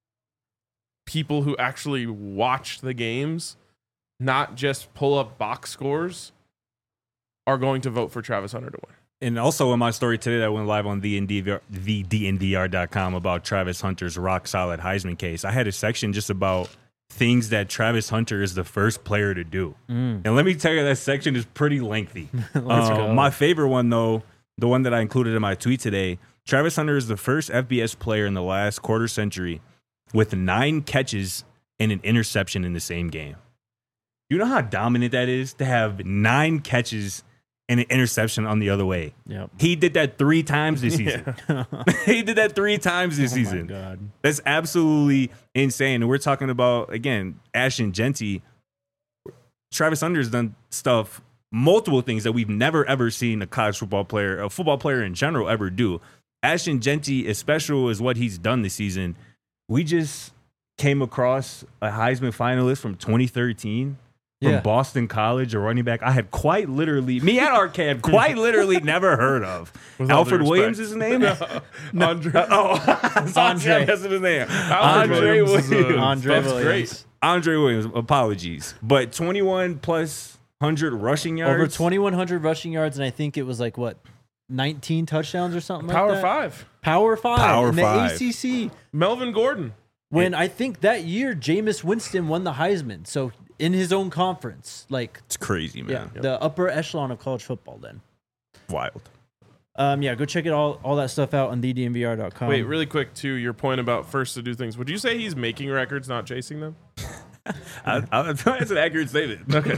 S2: people who actually watch the games, not just pull up box scores, are going to vote for Travis Hunter to win.
S3: And also in my story today that went live on thednvr.com about Travis Hunter's rock solid Heisman case, I had a section just about things that Travis Hunter is the first player to do. And let me tell you, that section is pretty lengthy. My favorite one, though, the one that I included in my tweet today, Travis Hunter is the first FBS player in the last quarter century with 9 catches and an interception in the same game. You know how dominant that is to have 9 catches and an interception on the other way?
S1: Yep.
S3: He did that 3 times this season. He did that 3 times this season.
S1: My God.
S3: That's absolutely insane. And we're talking about, again, Ashton Jeanty. Travis Hunter has done stuff, multiple things that we've never, ever seen a college football player, a football player in general, ever do. Ashton Jeanty, as special as what he's done this season, we just came across a Heisman finalist from 2013 from Boston College, a running back I had quite literally, me and RK had quite literally never heard of. Alfred Williams is his name?
S2: Andre.
S1: Andre.
S3: That's his name.
S2: Andre Williams.
S1: Andre Williams.
S2: Great.
S3: Andre Williams, apologies. But 21 plus 100 rushing yards.
S1: Over 2,100 rushing yards, and I think it was like, what, 19 touchdowns or something
S2: Power
S1: like that?
S2: 5.
S1: Power 5.
S3: Power
S1: in
S3: 5.
S1: The ACC.
S2: Melvin Gordon.
S1: When I think that year, Jameis Winston won the Heisman. So in his own conference. Like,
S3: it's crazy, man.
S1: Yeah, the upper echelon of college football then.
S3: Wild.
S1: Go check it all that stuff out on thednvr.com.
S2: Wait, really quick to your point about first to do things. Would you say he's making records, not chasing them?
S3: That's an accurate statement.
S2: Okay,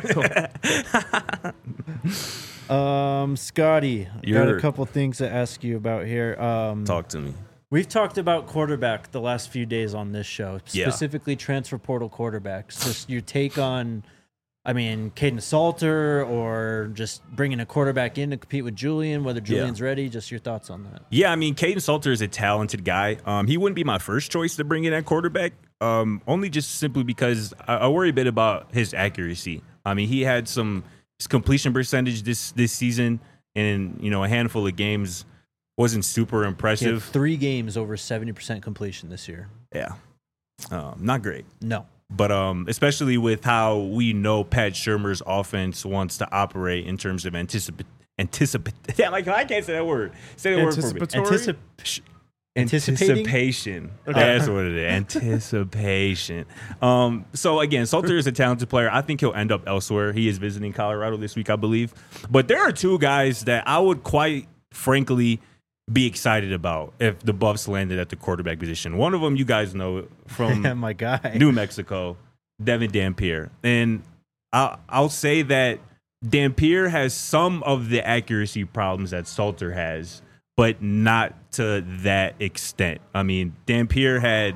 S1: cool. Scotty, got a couple things to ask you about here.
S3: Talk to me.
S1: We've talked about quarterback the last few days on this show, specifically transfer portal quarterbacks. Just your take on, Caden Salter, or just bringing a quarterback in to compete with Julian, whether Julian's ready. Just your thoughts on that.
S3: Yeah, Caden Salter is a talented guy. He wouldn't be my first choice to bring in at quarterback, only just simply because I worry a bit about his accuracy. He had his completion percentage this season, and a handful of games wasn't super impressive.
S1: He had 3 games over 70% completion this year.
S3: Yeah. Not great.
S1: No.
S3: But especially with how we know Pat Shurmur's offense wants to operate in terms of anticipation. I can't say that word. Say that word for me. Anticipation. Okay. That's what it is. Anticipation. So again, Salter is a talented player. I think he'll end up elsewhere. He is visiting Colorado this week, I believe. But there are 2 guys that I would quite frankly be excited about if the Buffs landed at the quarterback position. One of them, you guys know, from
S1: my guy,
S3: New Mexico, Devin Dampier. And I'll say that Dampier has some of the accuracy problems that Salter has, but not to that extent. I mean, Dampier had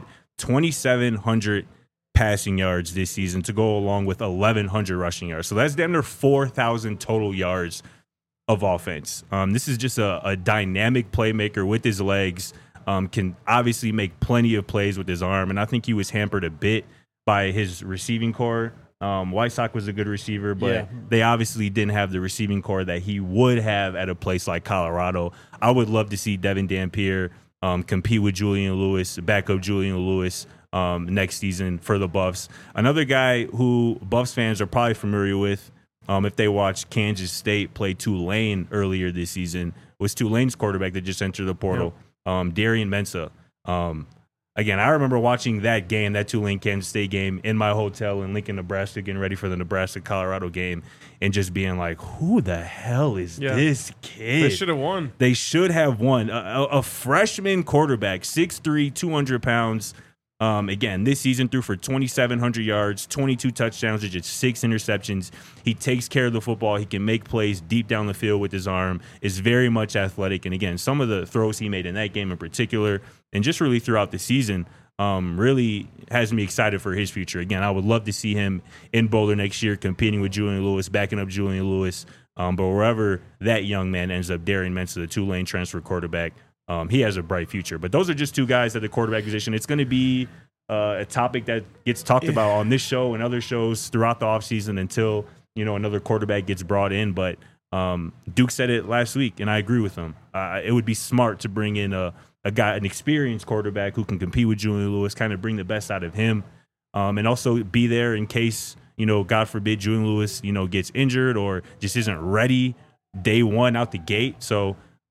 S3: 2,700 passing yards this season to go along with 1,100 rushing yards. So that's damn near 4,000 total yards of offense. This is just a dynamic playmaker with his legs. Can obviously make plenty of plays with his arm, and I think he was hampered a bit by his receiving core. Weisach was a good receiver, but they obviously didn't have the receiving core that he would have at a place like Colorado. I would love to see Devin Dampier compete with Julian Lewis, back up Julian Lewis next season for the Buffs. Another guy who Buffs fans are probably familiar with, if they watched Kansas State play Tulane earlier this season, was Tulane's quarterback that just entered the portal, Darian Mensah. Again, I remember watching that game, that Tulane-Kansas State game, in my hotel in Lincoln, Nebraska, getting ready for the Nebraska-Colorado game, and just being like, who the hell is this kid?
S2: They should have won.
S3: They should have won. A freshman quarterback, 6'3", 200 pounds. Again, this season threw for 2,700 yards, 22 touchdowns, or just 6 interceptions. He takes care of the football. He can make plays deep down the field with his arm, is very much athletic. And again, some of the throws he made in that game in particular, and just really throughout the season, really has me excited for his future. Again, I would love to see him in Boulder next year, competing with Julian Lewis, backing up Julian Lewis. But wherever that young man ends up, Darian Mensah, the Tulane transfer quarterback, he has a bright future. But those are just two guys at the quarterback position. It's going to be a topic that gets talked about on this show and other shows throughout the offseason until, another quarterback gets brought in. But Duke said it last week, and I agree with him. It would be smart to bring in a guy, an experienced quarterback who can compete with Julian Lewis, kind of bring the best out of him, and also be there in case, God forbid, Julian Lewis, gets injured or just isn't ready day one out the gate. So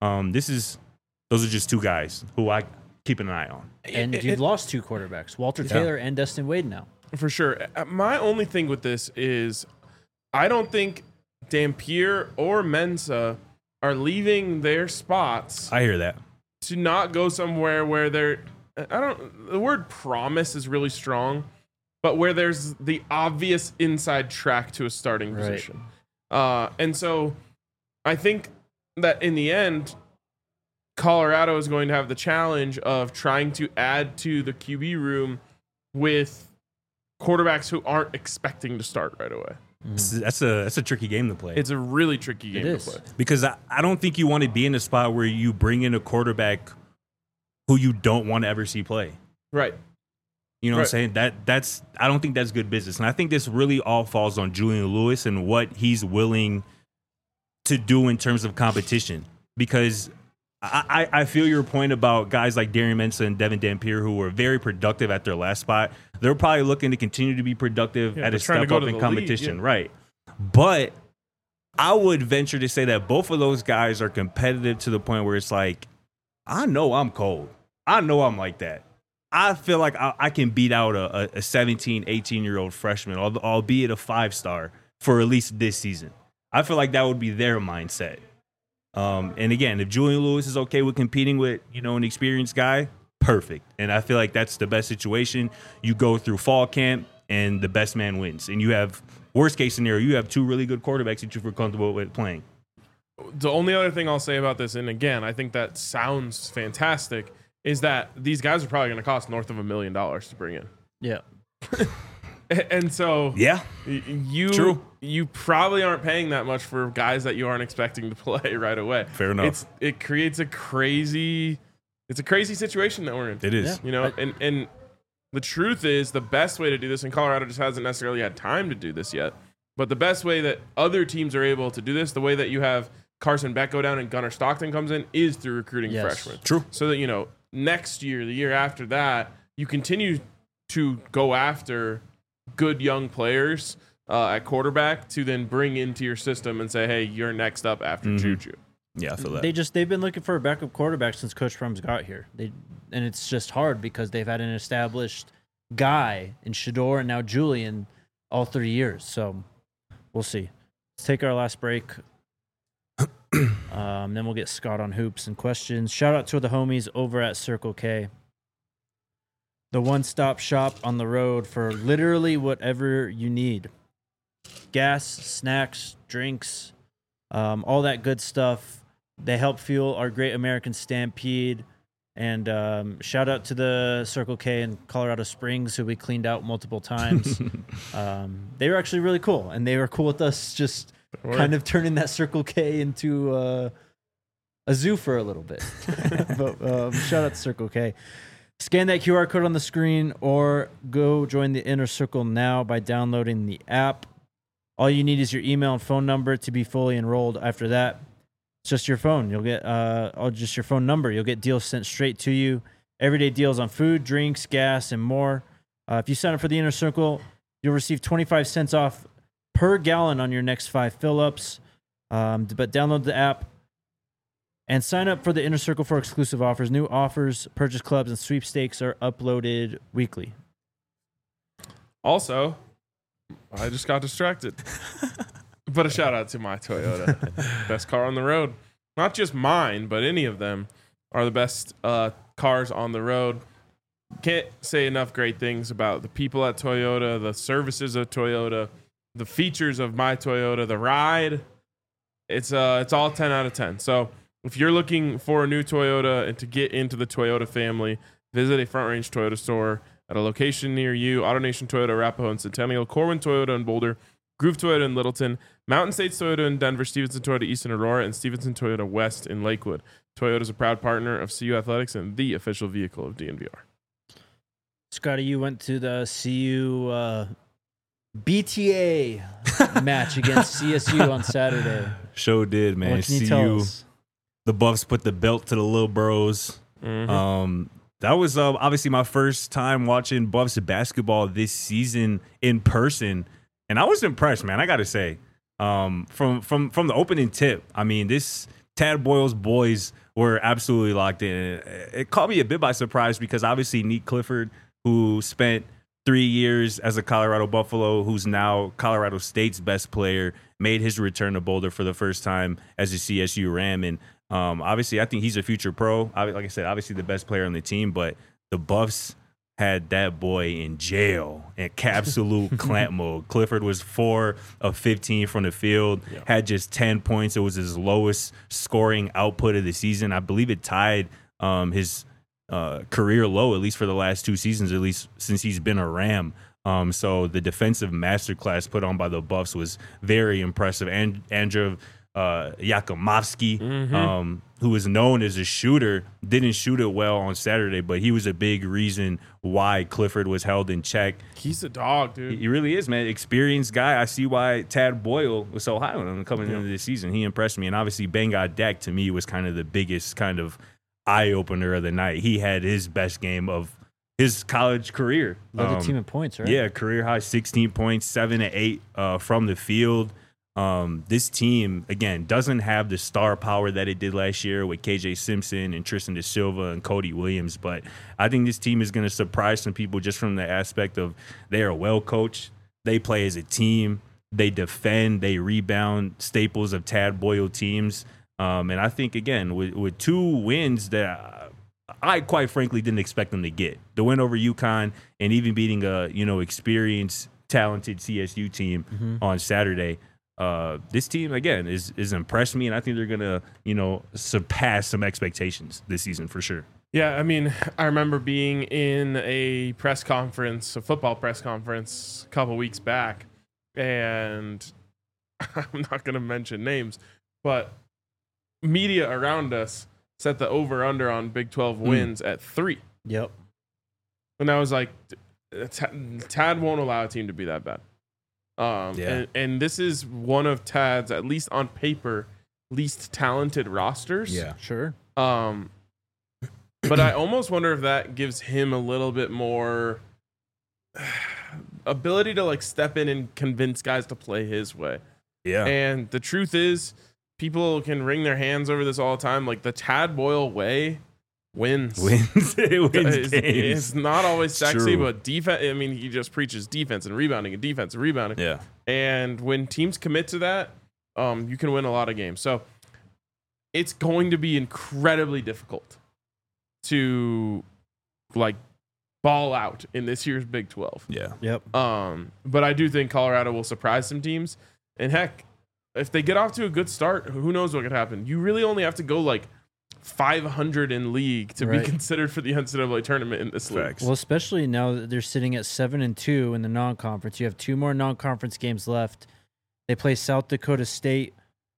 S3: those are just two guys who I keep an eye on.
S1: And you've lost two quarterbacks, Walter Taylor and Destin Wade now.
S2: For sure. My only thing with this is I don't think Dampier or Mensah are leaving their spots.
S3: I hear that.
S2: To not go somewhere where the word promise is really strong, but where there's the obvious inside track to a starting position. And so I think that in the end, Colorado is going to have the challenge of trying to add to the QB room with quarterbacks who aren't expecting to start right away.
S3: That's a tricky game to play.
S2: It's a really tricky game to play.
S3: Because I don't think you want to be in a spot where you bring in a quarterback who you don't want to ever see play.
S2: Right.
S3: You know what I'm saying? That's I don't think that's good business. And I think this really all falls on Julian Lewis and what he's willing to do in terms of competition. Because I feel your point about guys like Darian Mensah and Devin Dampier who were very productive at their last spot. They're probably looking to continue to be productive at a step up in competition. Right. But I would venture to say that both of those guys are competitive to the point where it's like, I know I'm cold. I know I'm like that. I feel like I can beat out a 17, 18-year-old freshman, albeit a 5-star, for at least this season. I feel like that would be their mindset. And again, if Julian Lewis is okay with competing with, an experienced guy, perfect. And I feel like that's the best situation. You go through fall camp and the best man wins. And you have, worst case scenario, you have two really good quarterbacks that you feel comfortable with playing.
S2: The only other thing I'll say about this, and again, I think that sounds fantastic, is that these guys are probably going to cost north of $1 million to bring in.
S1: Yeah.
S2: And so
S3: True.
S2: You probably aren't paying that much for guys that you aren't expecting to play right away.
S3: Fair enough.
S2: It creates a crazy situation that we're in.
S3: It is.
S2: And the truth is the best way to do this, and Colorado just hasn't necessarily had time to do this yet, but the best way that other teams are able to do this, the way that you have Carson Beck go down and Gunnar Stockton comes in, is through recruiting freshmen.
S3: True.
S2: So that, next year, the year after that, you continue to go after good young players at quarterback to then bring into your system and say, hey, you're next up after Juju.
S3: Yeah, I feel that.
S1: They've been looking for a backup quarterback since Coach Prum's got here. And it's just hard because they've had an established guy in Shedeur and now Julian all 3 years. So we'll see. Let's take our last break. Then we'll get Scott on hoops and questions. Shout out to the homies over at Circle K. The one-stop shop on the road for literally whatever you need. Gas, snacks, drinks, all that good stuff. They help fuel our Great American Stampede. And shout out to the Circle K in Colorado Springs, who we cleaned out multiple times. They were actually really cool, and they were cool with us just kind of turning that Circle K into a zoo for a little bit. But shout out to Circle K. Scan that QR code on the screen or go join the Inner Circle now by downloading the app. All you need is your email and phone number to be fully enrolled. After that, it's just your phone. You'll get just your phone number. You'll get deals sent straight to you. Everyday deals on food, drinks, gas, and more. If you sign up for the Inner Circle, you'll receive 25 cents off per gallon on your next 5 fill-ups. But download the app and sign up for the Inner Circle for exclusive offers. New offers, purchase clubs, and sweepstakes are uploaded weekly.
S2: Also, I just got distracted. But a shout out to my Toyota. Best car on the road. Not just mine, but any of them are the best cars on the road. Can't say enough great things about the people at Toyota, the services of Toyota, the features of my Toyota, the ride. It's all 10 out of 10. So if you're looking for a new Toyota and to get into the Toyota family, visit a Front Range Toyota store at a location near you. AutoNation Toyota, Arapahoe and Centennial, Corwin Toyota in Boulder, Groove Toyota in Littleton, Mountain States Toyota in Denver, Stevenson Toyota East in Aurora, and Stevenson Toyota West in Lakewood. Toyota is a proud partner of CU Athletics and the official vehicle of DNVR.
S1: Scotty, you went to the CU BTA match against CSU on Saturday.
S3: Show did, man.
S1: What can you tell us?
S3: The Buffs put the belt to the little bros.
S2: Mm-hmm.
S3: That was obviously my first time watching Buffs basketball this season in person, and I was impressed, man. I got to say, from the opening tip, I mean, this Tad Boyle's boys were absolutely locked in. It caught me a bit by surprise because obviously Nick Clifford, who spent 3 years as a Colorado Buffalo, who's now Colorado State's best player, made his return to Boulder for the first time as a CSU Ram. And obviously, I think he's a future pro. Like I said, obviously the best player on the team, but the Buffs had that boy in jail in absolute clamp mode. Clifford was 4 of 15 from the field, had just 10 points. It was his lowest scoring output of the season. I believe it tied his career low, at least for the last 2 seasons, at least since he's been a Ram. So the defensive masterclass put on by the Buffs was very impressive. And Andrew Yakimovsky, who is known as a shooter, didn't shoot it well on Saturday, but he was a big reason why Clifford was held in check.
S2: He's a dog, dude.
S3: He really is, man. Experienced guy. I see why Tad Boyle was so high on him coming into this season. He impressed me. And obviously, Bangad Dak, to me, was kind of the biggest kind of eye-opener of the night. He had his best game his college career.
S1: Led the team in points, right?
S3: Yeah, career high 16 points, 7 to 8 from the field. This team, again, doesn't have the star power that it did last year with KJ Simpson and Tristan Da Silva and Cody Williams. But I think this team is going to surprise some people just from the aspect of they are well coached. They play as a team. They defend. They rebound, staples of Tad Boyle teams. And I think, again, with 2 wins that I quite frankly didn't expect them to get. The win over UConn and even beating a experienced, talented CSU team on Saturday. This team, again, is impressed me, and I think they're going to, surpass some expectations this season for sure.
S2: Yeah, I mean, I remember being in a football press conference a couple weeks back, and I'm not going to mention names, but media around us set the over-under on Big 12 wins at 3.
S1: Yep.
S2: And I was like, Tad won't allow a team to be that bad. And this is one of Tad's, at least on paper, least talented rosters.
S1: Yeah, sure.
S2: But I almost wonder if that gives him a little bit more ability to step in and convince guys to play his way.
S3: Yeah.
S2: And the truth is, people can wring their hands over this all the time. Like the Tad Boyle way wins.
S3: It wins games.
S2: It's not always sexy,
S3: True.
S2: but defense. I mean, he just preaches defense and rebounding and defense and rebounding.
S3: Yeah.
S2: And when teams commit to that, you can win a lot of games. So it's going to be incredibly difficult to ball out in this year's Big 12.
S3: Yeah.
S1: Yep.
S2: But I do think Colorado will surprise some teams. And heck, if they get off to a good start, who knows what could happen? You really only have to go like 500 in league to be considered for the NCAA tournament in this league.
S1: Well, especially now that they're sitting at 7-2 in the non-conference. You have 2 more non-conference games left. They play South Dakota State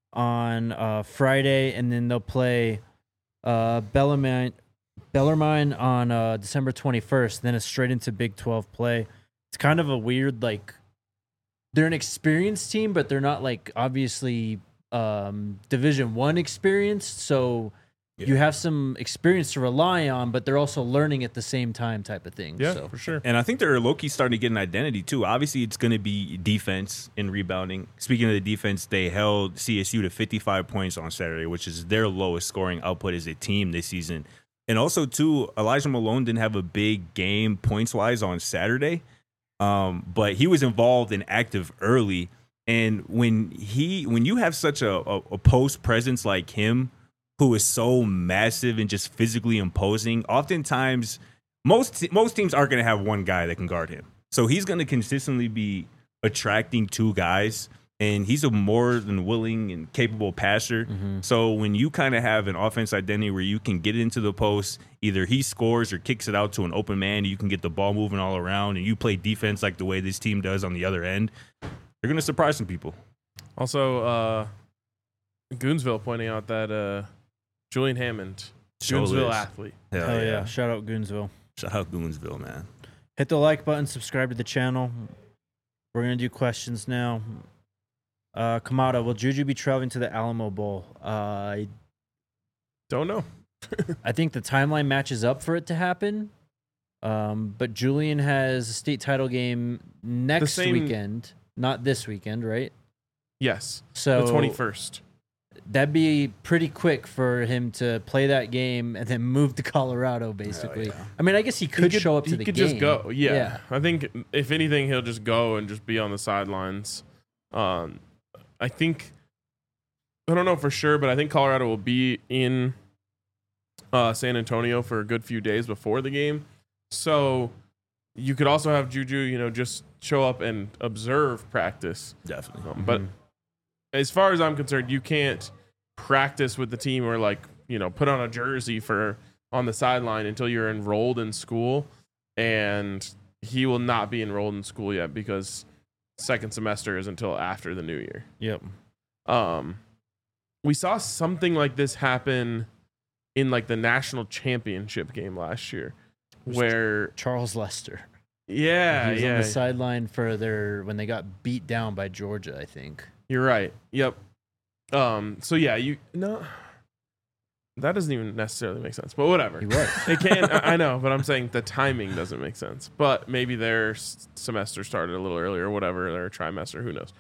S1: on Friday, and then they'll play Bellarmine on December 21st. Then it's straight into Big 12 play. It's kind of a weird, like, they're an experienced team, but they're not, like, obviously Division I experienced. So you have some experience to rely on, but they're also learning at the same time type of thing.
S2: Yeah,
S1: so.
S2: for sure.
S3: And I think they're low-key starting to get an identity, too. Obviously, it's going to be defense and rebounding. Speaking of the defense, they held CSU to 55 points on Saturday, which is their lowest scoring output as a team this season. And also, too, Elijah Malone didn't have a big game points-wise on Saturday, but he was involved and active early. And when you have such a post presence like him, who is so massive and just physically imposing, oftentimes most teams aren't going to have one guy that can guard him. So he's going to consistently be attracting 2 guys, and he's a more than willing and capable passer. Mm-hmm. So when you kind of have an offense identity where you can get into the post, either he scores or kicks it out to an open man, and you can get the ball moving all around, and you play defense like the way this team does on the other end, you're going to surprise some people.
S2: Also, Goonsville pointing out that Julian Hammond, Goonsville athlete.
S1: Hell yeah. Shout out Goonsville.
S3: Shout out Goonsville, man.
S1: Hit the like button, subscribe to the channel. We're going to do questions now. Kamada, will Juju be traveling to the Alamo Bowl? I
S2: don't know.
S1: I think the timeline matches up for it to happen. But Julian has a state title game next weekend, not this weekend, right?
S2: Yes.
S1: So
S2: the 21st.
S1: That'd be pretty quick for him to play that game and then move to Colorado, basically. Yeah. I mean, I guess he could show up to the game.
S2: He could just go. Yeah. I think, if anything, he'll just go and just be on the sidelines. I think, I don't know for sure, but I think Colorado will be in San Antonio for a good few days before the game. So you could also have Juju, just show up and observe practice.
S3: Definitely.
S2: But as far as I'm concerned, you can't practice with the team or put on a jersey on the sideline until you're enrolled in school. And he will not be enrolled in school yet because second semester is until after the new year.
S1: Yep.
S2: We saw something like this happen in the national championship game last year where
S1: Charles Lester.
S2: Yeah.
S1: He was on the sideline for when they got beat down by Georgia, I think.
S2: You're right. Yep. So yeah, that doesn't even necessarily make sense, but whatever.
S1: He was.
S2: It can. I know, but I'm saying the timing doesn't make sense. But maybe their semester started a little earlier, or whatever, their trimester. Who knows?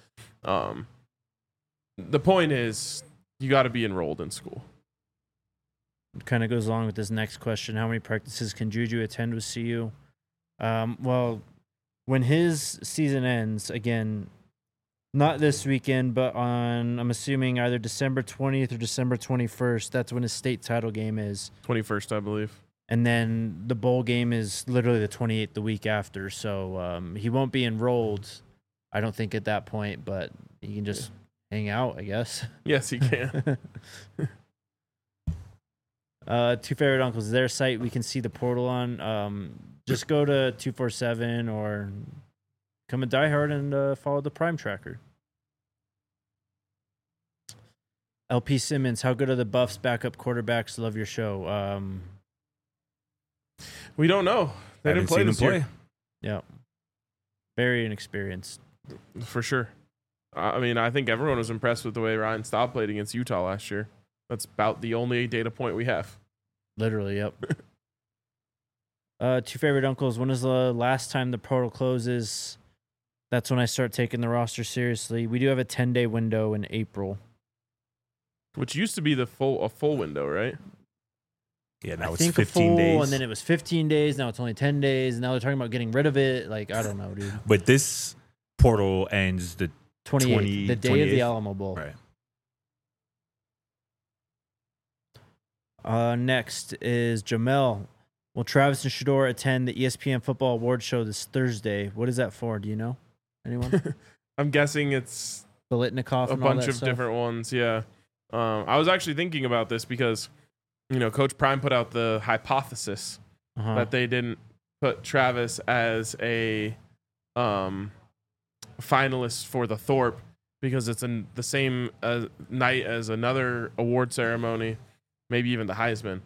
S2: The point is, you got to be enrolled in school.
S1: It kind of goes along with this next question: how many practices can Juju attend with CU? Well, when his season ends, again. Not this weekend, but I'm assuming either December 20th or December 21st. That's when his state title game is.
S2: 21st, I believe.
S1: And then the bowl game is literally the 28th, the week after. So he won't be enrolled, I don't think, at that point, but he can just hang out, I guess.
S2: Yes, he can.
S1: Two Favorite Uncles, is there a site we can see the portal on? Just go to 247 or come a diehard and follow the Prime Tracker. LP Simmons, how good are the Buffs backup quarterbacks? Love your show.
S2: We don't know. They didn't play this year.
S1: Yeah. Very inexperienced.
S2: For sure. I mean, I think everyone was impressed with the way Ryan Staub played against Utah last year. That's about the only data point we have.
S1: Literally, yep. Two Favorite Uncles, when is the last time the portal closes? That's when I start taking the roster seriously. We do have a 10-day window in April.
S2: Which used to be a full window, right?
S3: Yeah, now it's 15 days.
S1: And then it was 15 days. Now it's only 10 days. And now they're talking about getting rid of it. I don't know, dude.
S3: But this portal ends the
S1: 28th, the day
S3: 28th?
S1: of the Alamo Bowl.
S3: Right.
S1: Next is Jamel. Will Travis and Shador attend the ESPN Football Awards show this Thursday? What is that for? Do you know? Anyone?
S2: I'm guessing it's
S1: Biletnikoff,
S2: a
S1: and all
S2: bunch
S1: that
S2: of
S1: stuff.
S2: different ones. Yeah. I was actually thinking about this because, Coach Prime put out the hypothesis that they didn't put Travis as a finalist for the Thorpe because it's in the same night as another award ceremony, maybe even the Heisman.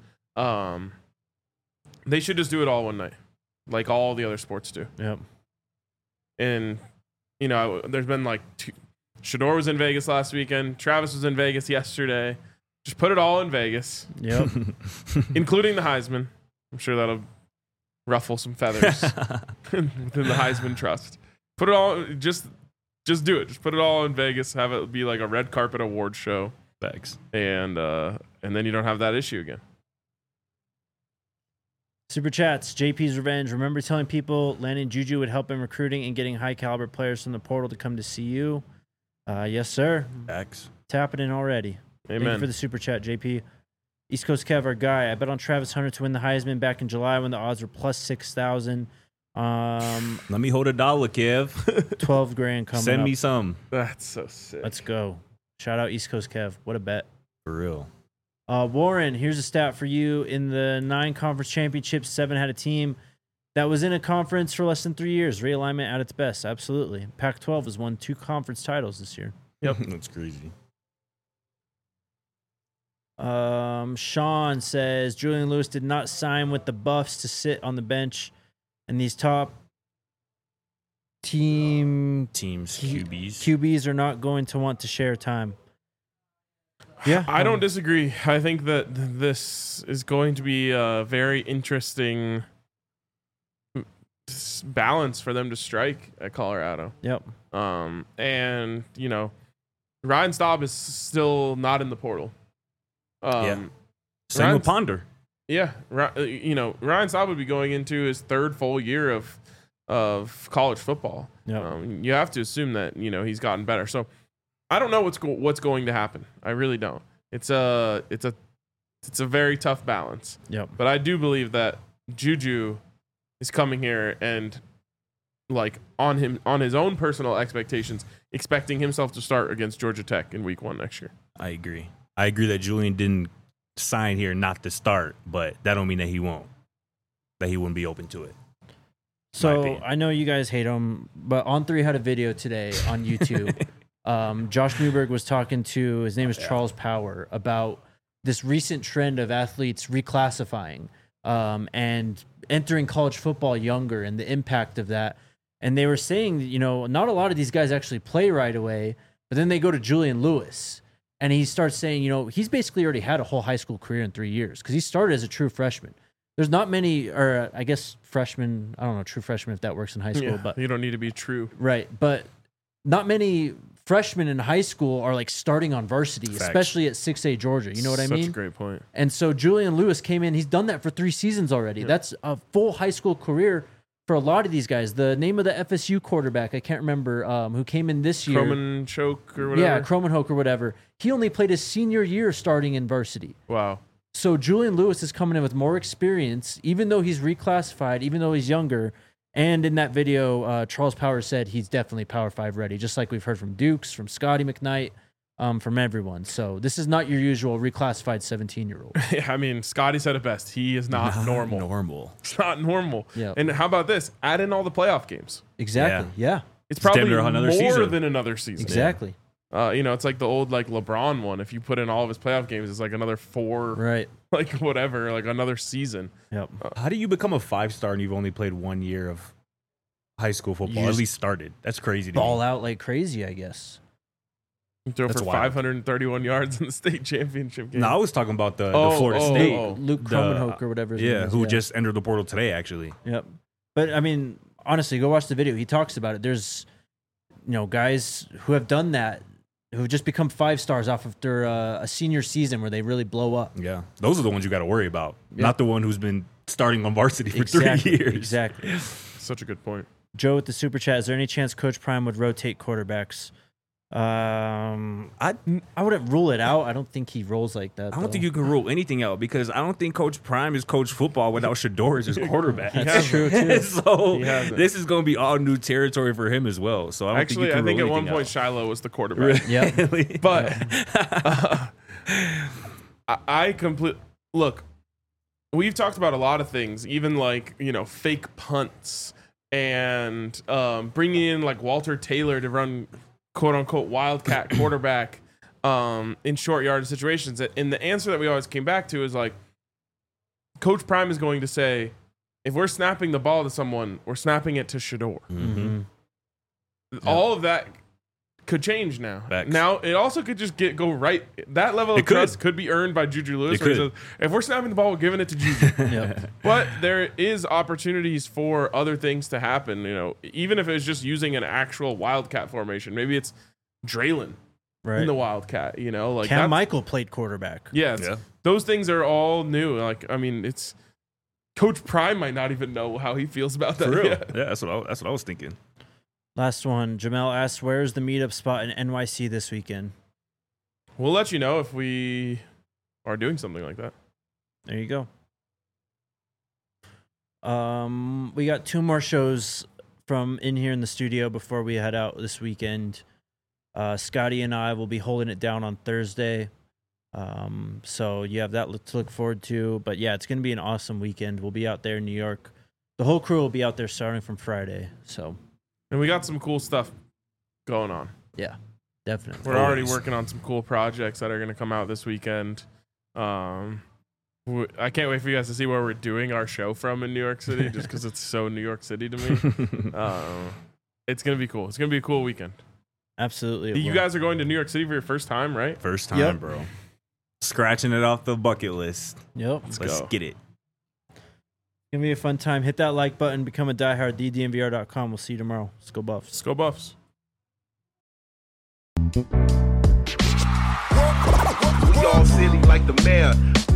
S2: They should just do it all one night, like all the other sports do.
S1: Yep.
S2: And, there's been like Shador was in Vegas last weekend. Travis was in Vegas yesterday. Just put it all in Vegas.
S1: Yep.
S2: Including the Heisman. I'm sure that'll ruffle some feathers within the Heisman trust. Put it all, just do it. Just put it all in Vegas. Have it be like a red carpet award show.
S3: Thanks.
S2: And then you don't have that issue again.
S1: Super chats. JP's Revenge. Remember telling people landing Juju would help in recruiting and getting high caliber players from the portal to come to see you? Yes, sir.
S3: Thanks.
S1: Tapping in already.
S2: Amen.
S1: Thank you for the super chat, JP. East Coast Kev, our guy. I bet on Travis Hunter to win the Heisman back in July when the odds were plus 6,000.
S3: Let me hold $1, Kev.
S1: 12 grand coming
S3: Send
S1: up.
S3: me some.
S2: That's so sick.
S1: Let's go. Shout out East Coast Kev. What a bet.
S3: For real.
S1: Warren, here's a stat for you. In the 9 conference championships, 7 had a team that was in a conference for less than 3 years. Realignment at its best. Absolutely. Pac-12 has won 2 conference titles this year.
S2: Yep.
S3: That's crazy.
S1: Sean says Julian Lewis did not sign with the Buffs to sit on the bench, and these top
S3: Teams, QBs
S1: are not going to want to share time. Yeah,
S2: I don't disagree. I think that this is going to be a very interesting balance for them to strike at Colorado.
S1: Yep.
S2: And Ryan Staub is still not in the portal.
S3: Same
S2: Ryan-
S3: with Ponder.
S2: Yeah, Ryan Staub would be going into his 3rd full year of college football.
S1: Yep.
S2: You have to assume that he's gotten better. So I don't know what's going to happen. I really don't. It's a very tough balance.
S1: Yep.
S2: But I do believe that Juju is coming here and on his own personal expectations, expecting himself to start against Georgia Tech in week 1 next year.
S3: I agree that Julian didn't sign here not to start, but that don't mean that he won't. That he wouldn't be open to it.
S1: So I know you guys hate him, but On3 had a video today on YouTube. Josh Newberg was talking to, his name is Charles Power, about this recent trend of athletes reclassifying and entering college football younger and the impact of that. And they were saying, not a lot of these guys actually play right away, but then they go to Julian Lewis and he starts saying, he's basically already had a whole high school career in 3 years because he started as a true freshman. There's not many, or I guess freshmen, I don't know, true freshmen if that works in high school, but
S2: you don't need to be true.
S1: Right. But not many freshmen in high school are starting on varsity,
S3: Facts.
S1: especially at 6A Georgia. You know what I mean?
S2: Such a great point.
S1: And so Julian Lewis came in. He's done that for 3 seasons already. Yeah. That's a full high school career for a lot of these guys. The name of the FSU quarterback, I can't remember, who came in this year.
S2: Croman-Choke or whatever?
S1: Yeah, Croman-Hoke or whatever. He only played his senior year starting in varsity.
S2: Wow.
S1: So Julian Lewis is coming in with more experience, even though he's reclassified, even though he's younger. And in that video, Charles Power said he's definitely Power 5 ready, just like we've heard from Dukes, from Scotty McKnight, from everyone. So this is not your usual reclassified 17-year-old.
S2: Yeah, I mean, Scotty said it best. He is not normal. It's not normal.
S1: Yeah.
S2: And how about this? Add in all the playoff games.
S1: Exactly. Yeah.
S2: It's probably
S3: another
S2: more
S3: season.
S2: than another season.
S1: Exactly.
S2: It's like the old LeBron one. If you put in all of his playoff games, it's like another 4,
S1: right?
S2: Whatever, another season.
S1: Yep.
S3: How do you become a 5-star and you've only played 1 year of high school football? At least started. That's crazy.
S1: Ball out like crazy, I guess.
S2: You throw for 531 yards in the state championship game.
S3: No, I was talking about the Florida State.
S1: Luke Croman-Hoke or whatever.
S3: Who just entered the portal today, actually.
S1: Yep. But I mean, honestly, go watch the video. He talks about it. There's, guys who have done that, who've just become 5-stars off after a senior season where they really blow up.
S3: Yeah. Those are the ones you got to worry about, not the one who's been starting on varsity for
S1: exactly,
S3: 3 years.
S1: Exactly.
S2: Such a good point.
S1: Joe with the super chat, is there any chance Coach Prime would rotate quarterbacks? I wouldn't rule it out. I don't think he rolls like that.
S3: I don't think you can rule anything out because I don't think Coach Prime is coach football without Shedeur as his quarterback.
S1: That's true too.
S3: So this is going to be all new territory for him as well. So I don't think you can
S2: I think
S3: rule
S2: at one
S3: anything
S2: point
S3: out.
S2: Shiloh was the quarterback.
S1: Yeah.
S2: But I look. We've talked about a lot of things, even like fake punts and bringing in like Walter Taylor to run quote unquote wildcat quarterback in short yardage situations. And the answer that we always came back to is like Coach Prime is going to say, if we're snapping the ball to someone, we're snapping it to Shedeur.
S3: Mm-hmm.
S2: All of that could change now.
S3: Facts.
S2: Now it also could just go right. That level of trust could be earned by Juju Lewis.
S3: It
S2: Where he
S3: could.
S2: says, if we're snapping the ball, we're giving it to Juju.
S1: Yep.
S2: But there is opportunities for other things to happen. Even if it's just using an actual Wildcat formation, maybe it's Draylon in the Wildcat. Like
S1: Cam Michael played quarterback.
S2: Yeah, those things are all new. Like it's Coach Prime might not even know how he feels about that.
S3: For real.
S2: yet.
S3: Yeah, that's what I was thinking.
S1: Last one. Jamel asks, where's the meetup spot in NYC this weekend?
S2: We'll let you know if we are doing something like that.
S1: There you go. We got 2 more shows from in here in the studio before we head out this weekend. Scotty and I will be holding it down on Thursday. So you have that to look forward to. But yeah, it's going to be an awesome weekend. We'll be out there in New York. The whole crew will be out there starting from Friday. So.
S2: And we got some cool stuff going on.
S1: Yeah, definitely.
S2: We're already working on some cool projects that are going to come out this weekend. I can't wait for you guys to see where we're doing our show from in New York City, just because it's so New York City to me. It's going to be cool. It's going to be a cool weekend.
S1: Absolutely.
S2: You guys are going to New York City for your first time, right?
S3: First time,
S1: Yep.
S3: bro. Scratching it off the bucket list.
S1: Yep.
S3: Let's
S2: go.
S3: get it.
S1: It's going to be a fun time. Hit that like button. Become a diehard. DDNVR.com. We'll see you tomorrow. Let's go Buffs.
S2: Let's go Buffs.
S4: We all silly like the mayor.